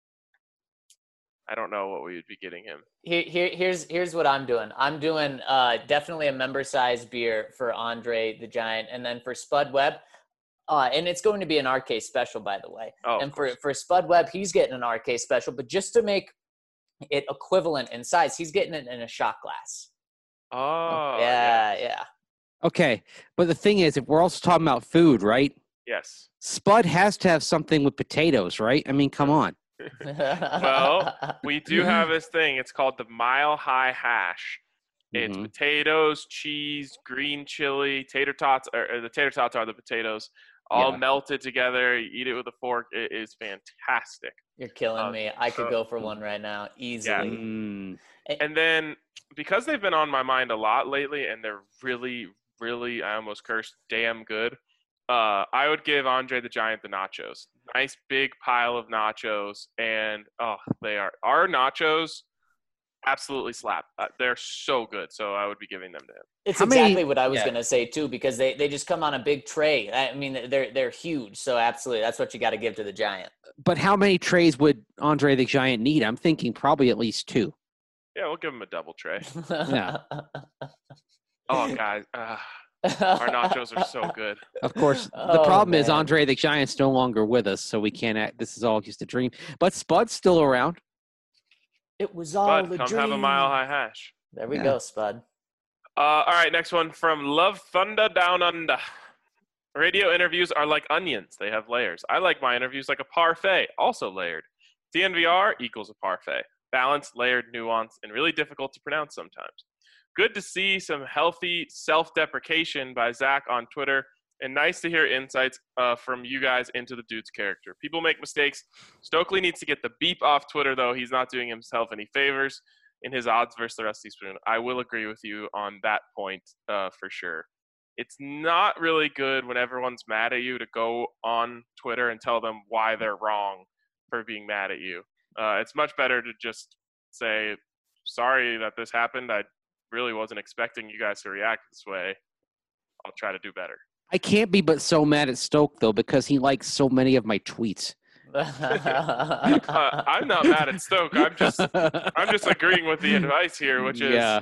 I don't know what we would be getting him. Here's what I'm doing. I'm doing definitely a member-sized beer for Andre the Giant, and then for Spud Webb, and it's going to be an RK special, by the way. Oh, and for Spud Webb, he's getting an RK special, but just to make it equivalent in size, he's getting it in a shot glass. Oh, yeah. Okay, but the thing is, if we're also talking about food, right? Yes. Spud has to have something with potatoes, right? I mean, come on. Well, we do have this thing. It's called the Mile High Hash. It's potatoes, cheese, green chili, tater tots, or the tater tots are the potatoes, all melted together. You eat it with a fork. It is fantastic. You're killing me. I could go for one right now, easily. Yeah. And then, because they've been on my mind a lot lately, and they're really, really, I almost cursed, damn good, I would give Andre the Giant the nachos. Nice big pile of nachos, and they are our nachos. Absolutely slap. They're so good, so I would be giving them to him. It's exactly what I was going to say too, because they just come on a big tray. I mean, they're huge, so absolutely, that's what you got to give to the Giant. But how many trays would Andre the Giant need? I'm thinking probably at least 2. Yeah, we'll give him a double tray. Yeah. Oh, guys. Our nachos are so good. Of course, the problem is Andre the Giant's no longer with us, so we can't act. This is all just a dream. But Spud's still around. It was all Spud, a dream. come have a Mile High Hash. There we go, Spud. All right, next one from Love Thunder Down Under. Radio interviews are like onions. They have layers. I like my interviews like a parfait, also layered. DNVR equals a parfait. Balanced, layered, nuanced, and really difficult to pronounce sometimes. Good to see some healthy self-deprecation by Zach on Twitter, and nice to hear insights from you guys into the dude's character. People make mistakes. Stokely needs to get the beep off Twitter, though. He's not doing himself any favors in his odds versus the Rusty Spoon. I will agree with you on that point for sure. It's not really good when everyone's mad at you to go on Twitter and tell them why they're wrong for being mad at you. It's much better to just say, sorry that this happened. I really wasn't expecting you guys to react this way. I'll try to do better. I can't be but so mad at Stoke, though, because he likes so many of my tweets. I'm not mad at Stoke. I'm just agreeing with the advice here, which is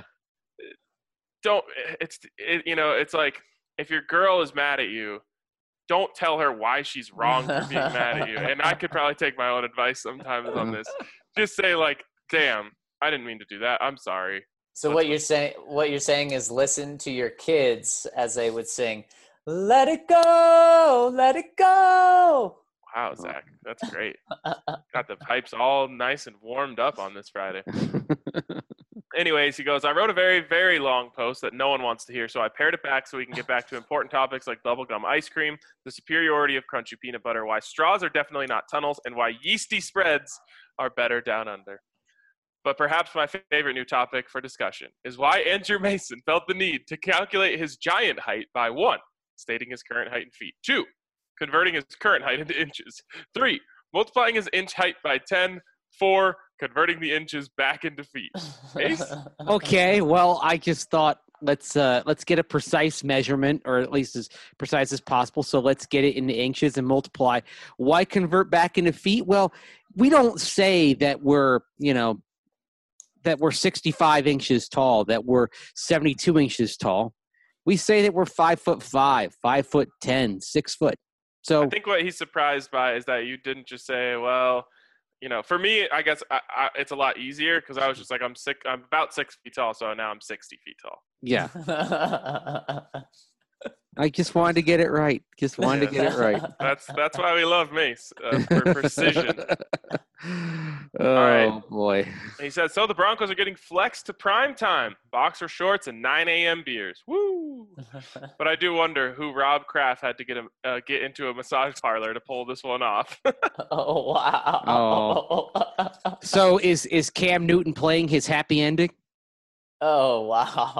it's like if your girl is mad at you, don't tell her why she's wrong for being mad at you. And I could probably take my own advice sometimes on this. Just say like, damn, I didn't mean to do that. I'm sorry. So what you're saying is listen to your kids as they would sing, "Let it go, let it go." Wow, Zach, that's great. Got the pipes all nice and warmed up on this Friday. Anyways, he goes, I wrote a very, very long post that no one wants to hear, so I pared it back so we can get back to important topics like bubblegum ice cream, the superiority of crunchy peanut butter, why straws are definitely not tunnels, and why yeasty spreads are better down under. But perhaps my favorite new topic for discussion is why Andrew Mason felt the need to calculate his giant height by 1, stating his current height in feet, 2, converting his current height into inches, 3, multiplying his inch height by 10, 4, converting the inches back into feet. Ace? Okay, well, I just thought let's get a precise measurement, or at least as precise as possible. So let's get it into inches and multiply. Why convert back into feet? Well, we don't say that we're 65 inches tall, that we're 72 inches tall. We say that we're 5'5", 5'10", 6 foot. So I think what he's surprised by is that you didn't just say, well, for me, I guess it's a lot easier because I was just like, I'm about 6 feet tall, so now I'm 60 feet tall. Yeah. I just wanted to get it right. Just wanted to get it right. That's why we love Mace for precision. Oh, right. boy. He said, so the Broncos are getting flexed to prime time, boxer shorts and 9 a.m. beers. Woo! But I do wonder who Rob Kraft had to get into a massage parlor to pull this one off. Oh, wow. Oh. So is Cam Newton playing his happy ending? Oh, wow.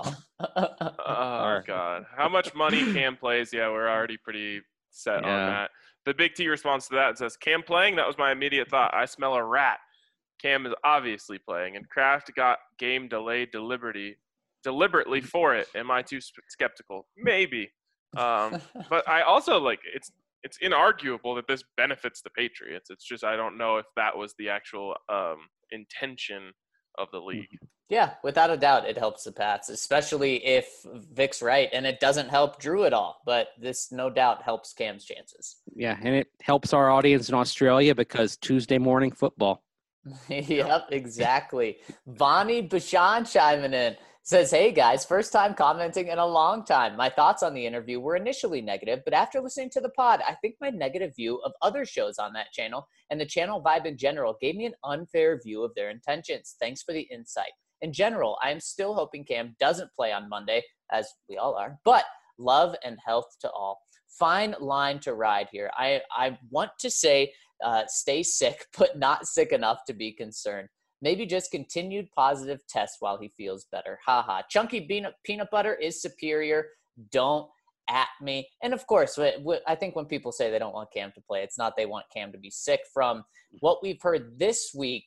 Oh, God. How much money Cam plays? Yeah, we're already pretty set on that. The Big T responds to that says, Cam playing? That was my immediate thought. I smell a rat. Cam is obviously playing, and Kraft got game delayed deliberately for it. Am I too skeptical? Maybe. But I also, it's inarguable that this benefits the Patriots. It's just I don't know if that was the actual intention of the league. Yeah, without a doubt, it helps the Pats, especially if Vic's right, and it doesn't help Drew at all. But this, no doubt, helps Cam's chances. Yeah, and it helps our audience in Australia because Tuesday morning football. Yep, exactly. Vani Bashan chiming in. Says, hey guys, first time commenting in a long time. My thoughts on the interview were initially negative, but after listening to the pod, I think my negative view of other shows on that channel and the channel vibe in general gave me an unfair view of their intentions. Thanks for the insight. In general, I am still hoping Cam doesn't play on Monday, as we all are, but love and health to all. Fine line to ride here. I want to say stay sick, but not sick enough to be concerned. Maybe just continued positive tests while he feels better. Haha. Chunky peanut butter is superior. Don't at me. And of course, I think when people say they don't want Cam to play, it's not they want Cam to be sick. From what we've heard this week,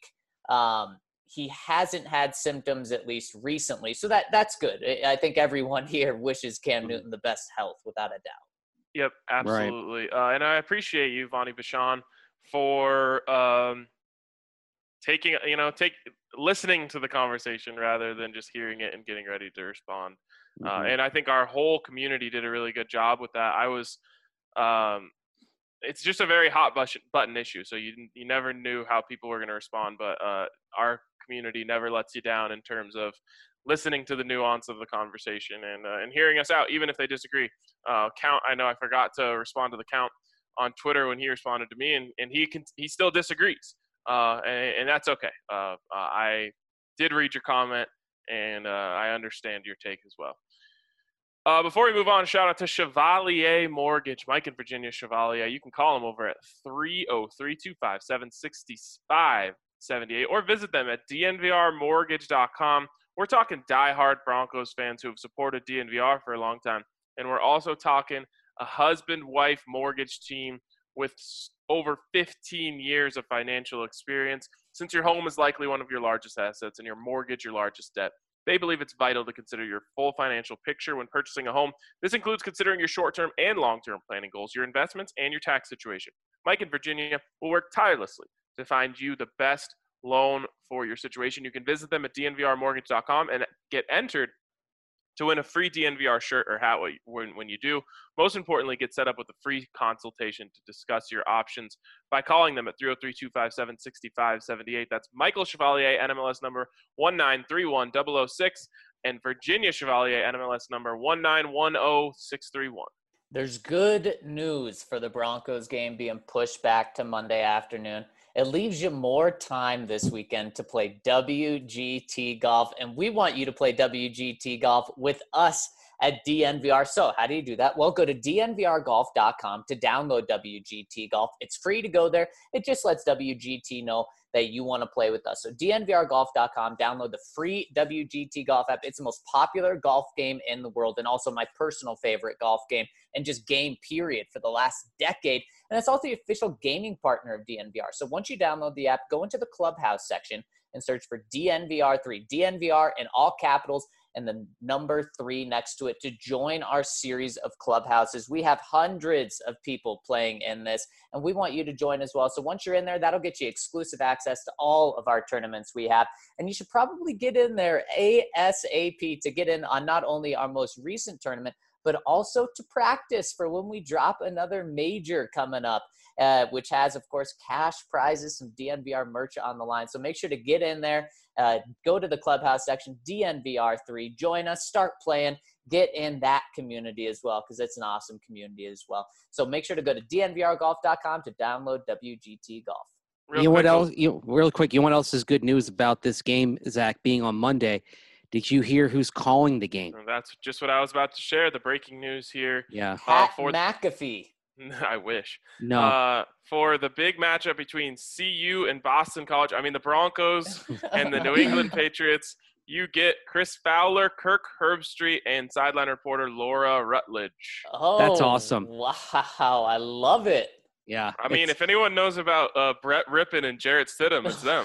he hasn't had symptoms, at least recently. So that's good. I think everyone here wishes Cam Newton the best health, without a doubt. Yep, absolutely. Right. And I appreciate you, Vani Bashan, for listening to the conversation rather than just hearing it and getting ready to respond. And I think our whole community did a really good job with that. It's just a very hot button issue. So you never knew how people were going to respond, but our community never lets you down in terms of listening to the nuance of the conversation and hearing us out, even if they disagree. Count, I know I forgot to respond to the Count on Twitter when he responded to me, and he still disagrees. And that's okay. I did read your comment, and I understand your take as well. Before we move on, shout out to Chevalier Mortgage, Mike in Virginia. Chevalier, you can call them over at 303-257-6578 or visit them at dnvrmortgage.com. We're talking diehard Broncos fans who have supported DNVR for a long time, and we're also talking a husband-wife mortgage team with over 15 years of financial experience. Since your home is likely one of your largest assets and your mortgage your largest debt, they believe it's vital to consider your full financial picture when purchasing a home. This includes considering your short-term and long-term planning goals, your investments, and your tax situation. Mike in Virginia will work tirelessly to find you the best loan for your situation. You can visit them at dnvrmortgage.com and get entered to win a free DNVR shirt or hat when you do. Most importantly, get set up with a free consultation to discuss your options by calling them at 303-257-6578. That's Michael Chevalier, NMLS number 1931006, and Virginia Chevalier, NMLS number 1910631. There's good news for the Broncos game being pushed back to Monday afternoon. It leaves you more time this weekend to play WGT golf, and we want you to play WGT golf with us at DNVR. So how do you do that? Well, go to dnvrgolf.com to download WGT Golf. It's free to go there. It just lets WGT know that you want to play with us. So dnvrgolf.com, download the free WGT Golf app. It's the most popular golf game in the world and also my personal favorite golf game and just game period for the last decade. And it's also the official gaming partner of DNVR. So once you download the app, go into the Clubhouse section and search for DNVR3, DNVR in all capitals and the number 3 next to it to join our series of clubhouses. We have hundreds of people playing in this, and we want you to join as well. So once you're in there, that'll get you exclusive access to all of our tournaments we have. And you should probably get in there ASAP to get in on not only our most recent tournament, but also to practice for when we drop another major coming up, which has, of course, cash prizes, some DNVR merch on the line. So make sure to get in there, go to the Clubhouse section, DNVR3, join us, start playing, get in that community as well, because it's an awesome community as well. So make sure to go to dnvrgolf.com to download WGT Golf. Real quick, you know what else is good news about this game, Zach, being on Monday? Did you hear who's calling the game? That's just what I was about to share. The breaking news here. Yeah. Pat McAfee. I wish. No. For the big matchup between CU and Boston College, I mean the Broncos and the New England Patriots, you get Chris Fowler, Kirk Herbstreit, and sideline reporter Laura Rutledge. Oh, that's awesome. Wow, I love it. Yeah. I mean, if anyone knows about Brett Rippon and Jarrett Stidham, it's them.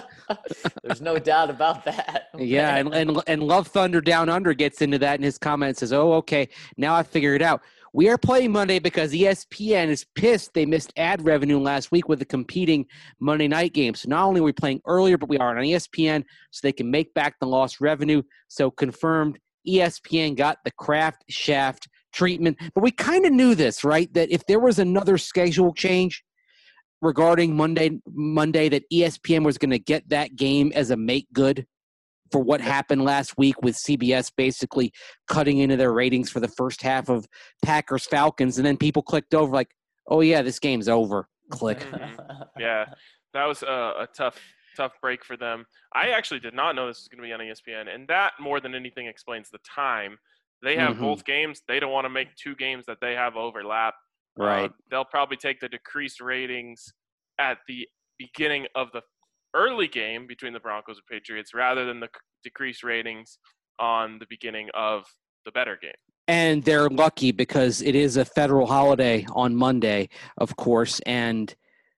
There's no doubt about that. Yeah, and Love Thunder Down Under gets into that in his comments, says, oh, okay, now I figured it out. We are playing Monday because ESPN is pissed they missed ad revenue last week with the competing Monday night game. So not only are we playing earlier, but we are on ESPN so they can make back the lost revenue. So confirmed, ESPN got the Kraft shaft treatment. But we kind of knew this, right? That if there was another schedule change regarding Monday that ESPN was going to get that game as a make good for what happened last week with CBS basically cutting into their ratings for the first half of Packers Falcons. And then people clicked over like, oh yeah, this game's over. Click. Mm-hmm. Yeah, that was a tough break for them. I actually did not know this was going to be on ESPN, and that more than anything explains the time. They have both games. They don't want to make two games that they have overlap. Right. They'll probably take the decreased ratings at the beginning of the early game between the Broncos and Patriots rather than the decreased ratings on the beginning of the better game. And they're lucky because it is a federal holiday on Monday, of course, and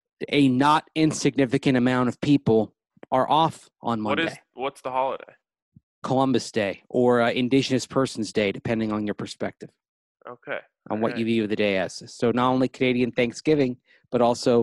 a not insignificant amount of people are off on Monday. What's the holiday? Columbus Day or Indigenous Persons Day, depending on your perspective. Okay. On what you view the day as. So not only Canadian Thanksgiving, but also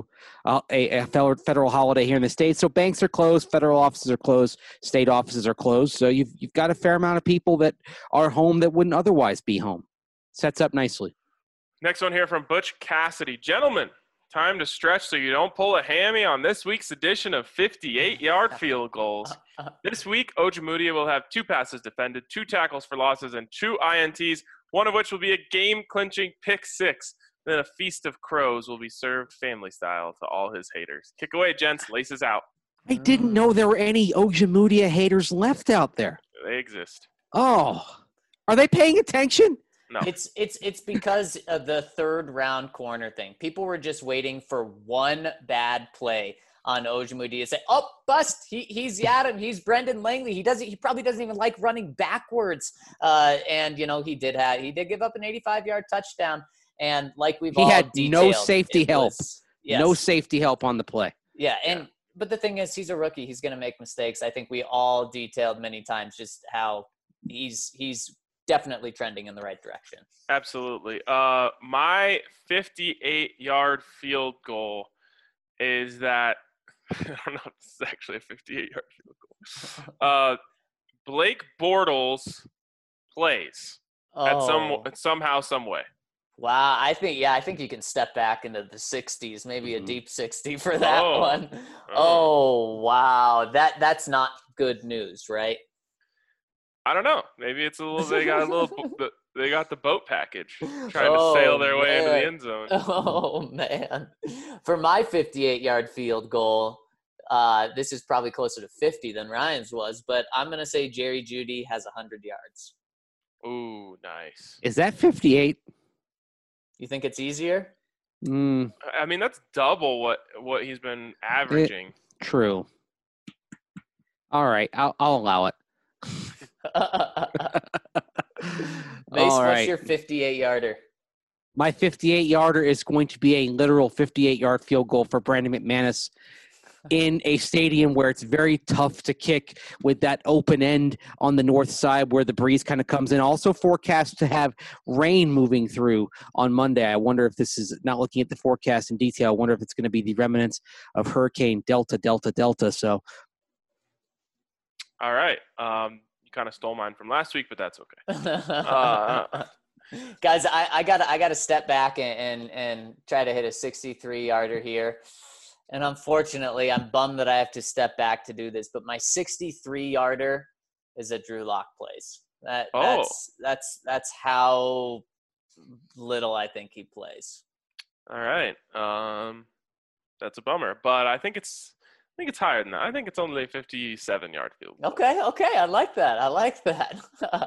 a federal holiday here in the States. So banks are closed, federal offices are closed, state offices are closed. So you've got a fair amount of people that are home that wouldn't otherwise be home. Sets up nicely. Next one here from Butch Cassidy. Gentlemen, time to stretch so you don't pull a hammy on this week's edition of 58-yard field goals. This week, Ojemudia will have 2 passes defended, 2 tackles for losses, and 2 INTs, one of which will be a game-clinching pick 6. Then a feast of crows will be served family style to all his haters. Kick away, gents. Laces out. I didn't know there were any Ojemudia haters left out there. They exist. Oh, are they paying attention? No. It's because of the third round corner thing. People were just waiting for one bad play on Ojemudia to say, oh, bust. He's Yadam. He's Brendan Langley. He probably doesn't even like running backwards. And he did give up an 85-yard touchdown. And like he had detailed, no safety help. Yes. No safety help on the play. Yeah, but the thing is, he's a rookie. He's going to make mistakes. I think we all detailed many times just how he's definitely trending in the right direction. Absolutely. My 58-yard field goal is that I don't know if this is actually a 58-yard field goal. Blake Bortles plays somehow, some way. Wow, I think you can step back into the 60s, maybe a deep 60 for that one. Oh, wow. That's not good news, right? I don't know. Maybe it's they got the boat package trying to sail their way into the end zone. Oh, man. For my 58-yard field goal, this is probably closer to 50 than Ryan's was, but I'm going to say Jerry Jeudy has 100 yards. Ooh, nice. Is that 58? You think it's easier? I mean, that's double what he's been averaging. True. All right, I'll allow it. Mace, what's your 58-yarder? My 58-yarder is going to be a literal 58-yard field goal for Brandon McManus in a stadium where it's very tough to kick with that open end on the north side where the breeze kind of comes in. Also forecast to have rain moving through on Monday. I wonder if this is, not looking at the forecast in detail, I wonder if it's going to be the remnants of Hurricane Delta. So. All right. You kind of stole mine from last week, but that's okay. Guys, I gotta step back and try to hit a 63-yarder here. And unfortunately, I'm bummed that I have to step back to do this, but my 63-yarder is a Drew Lock plays. That's how little I think he plays. All right. That's a bummer, but I think it's higher than that. I think it's only a 57-yard field goal. Okay. I like that.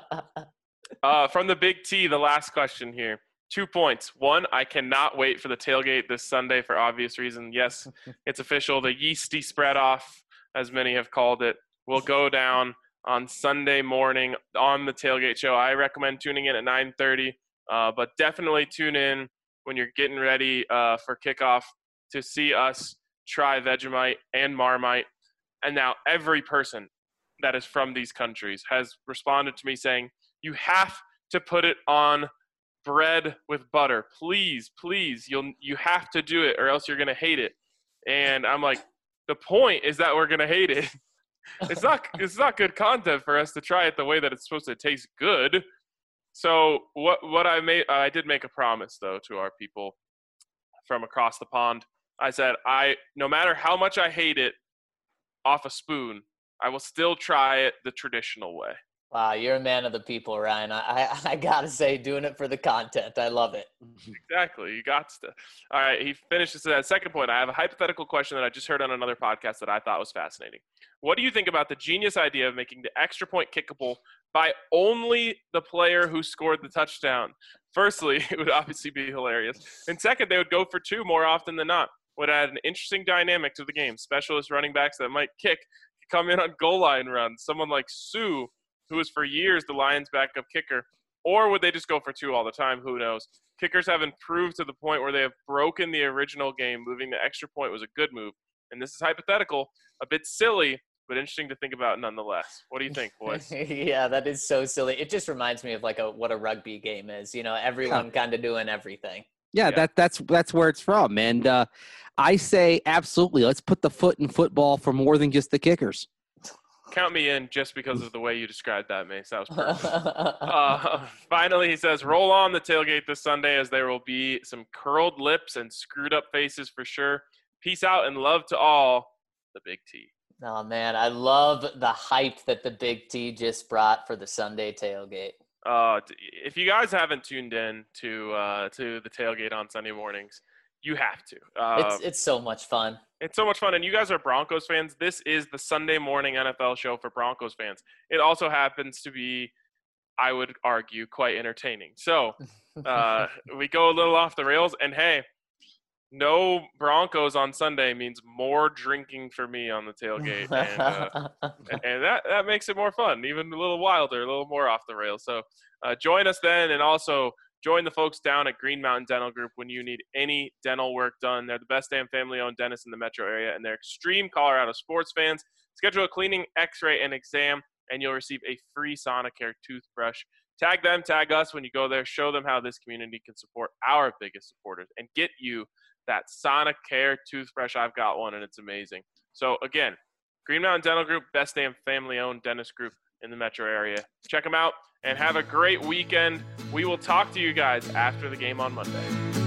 From the Big T, the last question here. 2 points. One, I cannot wait for the tailgate this Sunday for obvious reason. Yes, it's official. The yeasty spread off, as many have called it, will go down on Sunday morning on the tailgate show. I recommend tuning in at 9:30, but definitely tune in when you're getting ready for kickoff to see us try Vegemite and Marmite. And now every person that is from these countries has responded to me saying, you have to put it on bread with butter. Please, you have to do it or else you're going to hate it. And I'm like, the point is that we're going to hate it. It's not good content for us to try it the way that it's supposed to taste good. So what I did make a promise though to our people from across the pond. I said, no matter how much I hate it off a spoon, I will still try it the traditional way. Wow, you're a man of the people, Ryan. I gotta say, doing it for the content. I love it. Exactly. You got to. All right, he finishes that second point. I have a hypothetical question that I just heard on another podcast that I thought was fascinating. What do you think about the genius idea of making the extra point kickable by only the player who scored the touchdown? Firstly, it would obviously be hilarious. And second, they would go for two more often than not. Would add an interesting dynamic to the game. Specialist running backs that might kick could come in on goal line runs. Someone like Sue, who was for years the Lions' backup kicker. Or would they just go for two all the time? Who knows? Kickers have improved to the point where they have broken the original game. Moving the extra point was a good move. And this is hypothetical, a bit silly, but interesting to think about nonetheless. What do you think, boys? Yeah, that is so silly. It just reminds me of what a rugby game is. Everyone kind of doing everything. Yeah, that's where it's from. And I say absolutely. Let's put the foot in football for more than just the kickers. Count me in just because of the way you described that, Mace. That was perfect. Finally, he says, roll on the tailgate this Sunday as there will be some curled lips and screwed up faces for sure. Peace out and love to all, the Big T. Oh, man, I love the hype that the Big T just brought for the Sunday tailgate. If you guys haven't tuned in to the tailgate on Sunday mornings, you have to. It's so much fun. It's so much fun. And you guys are Broncos fans. This is the Sunday morning NFL show for Broncos fans. It also happens to be, I would argue, quite entertaining. So we go a little off the rails. And, hey, no Broncos on Sunday means more drinking for me on the tailgate. And that makes it more fun, even a little wilder, a little more off the rails. So join us then, and also join the folks down at Green Mountain Dental Group when you need any dental work done. They're the best damn family-owned dentists in the metro area, and they're extreme Colorado sports fans. Schedule a cleaning, x-ray, and exam, and you'll receive a free Sonicare toothbrush. Tag them, tag us when you go there. Show them how this community can support our biggest supporters and get you that Sonicare toothbrush. I've got one, and it's amazing. So, again, Green Mountain Dental Group, best damn family-owned dentist group in the metro area. Check them out and have a great weekend. We will talk to you guys after the game on Monday.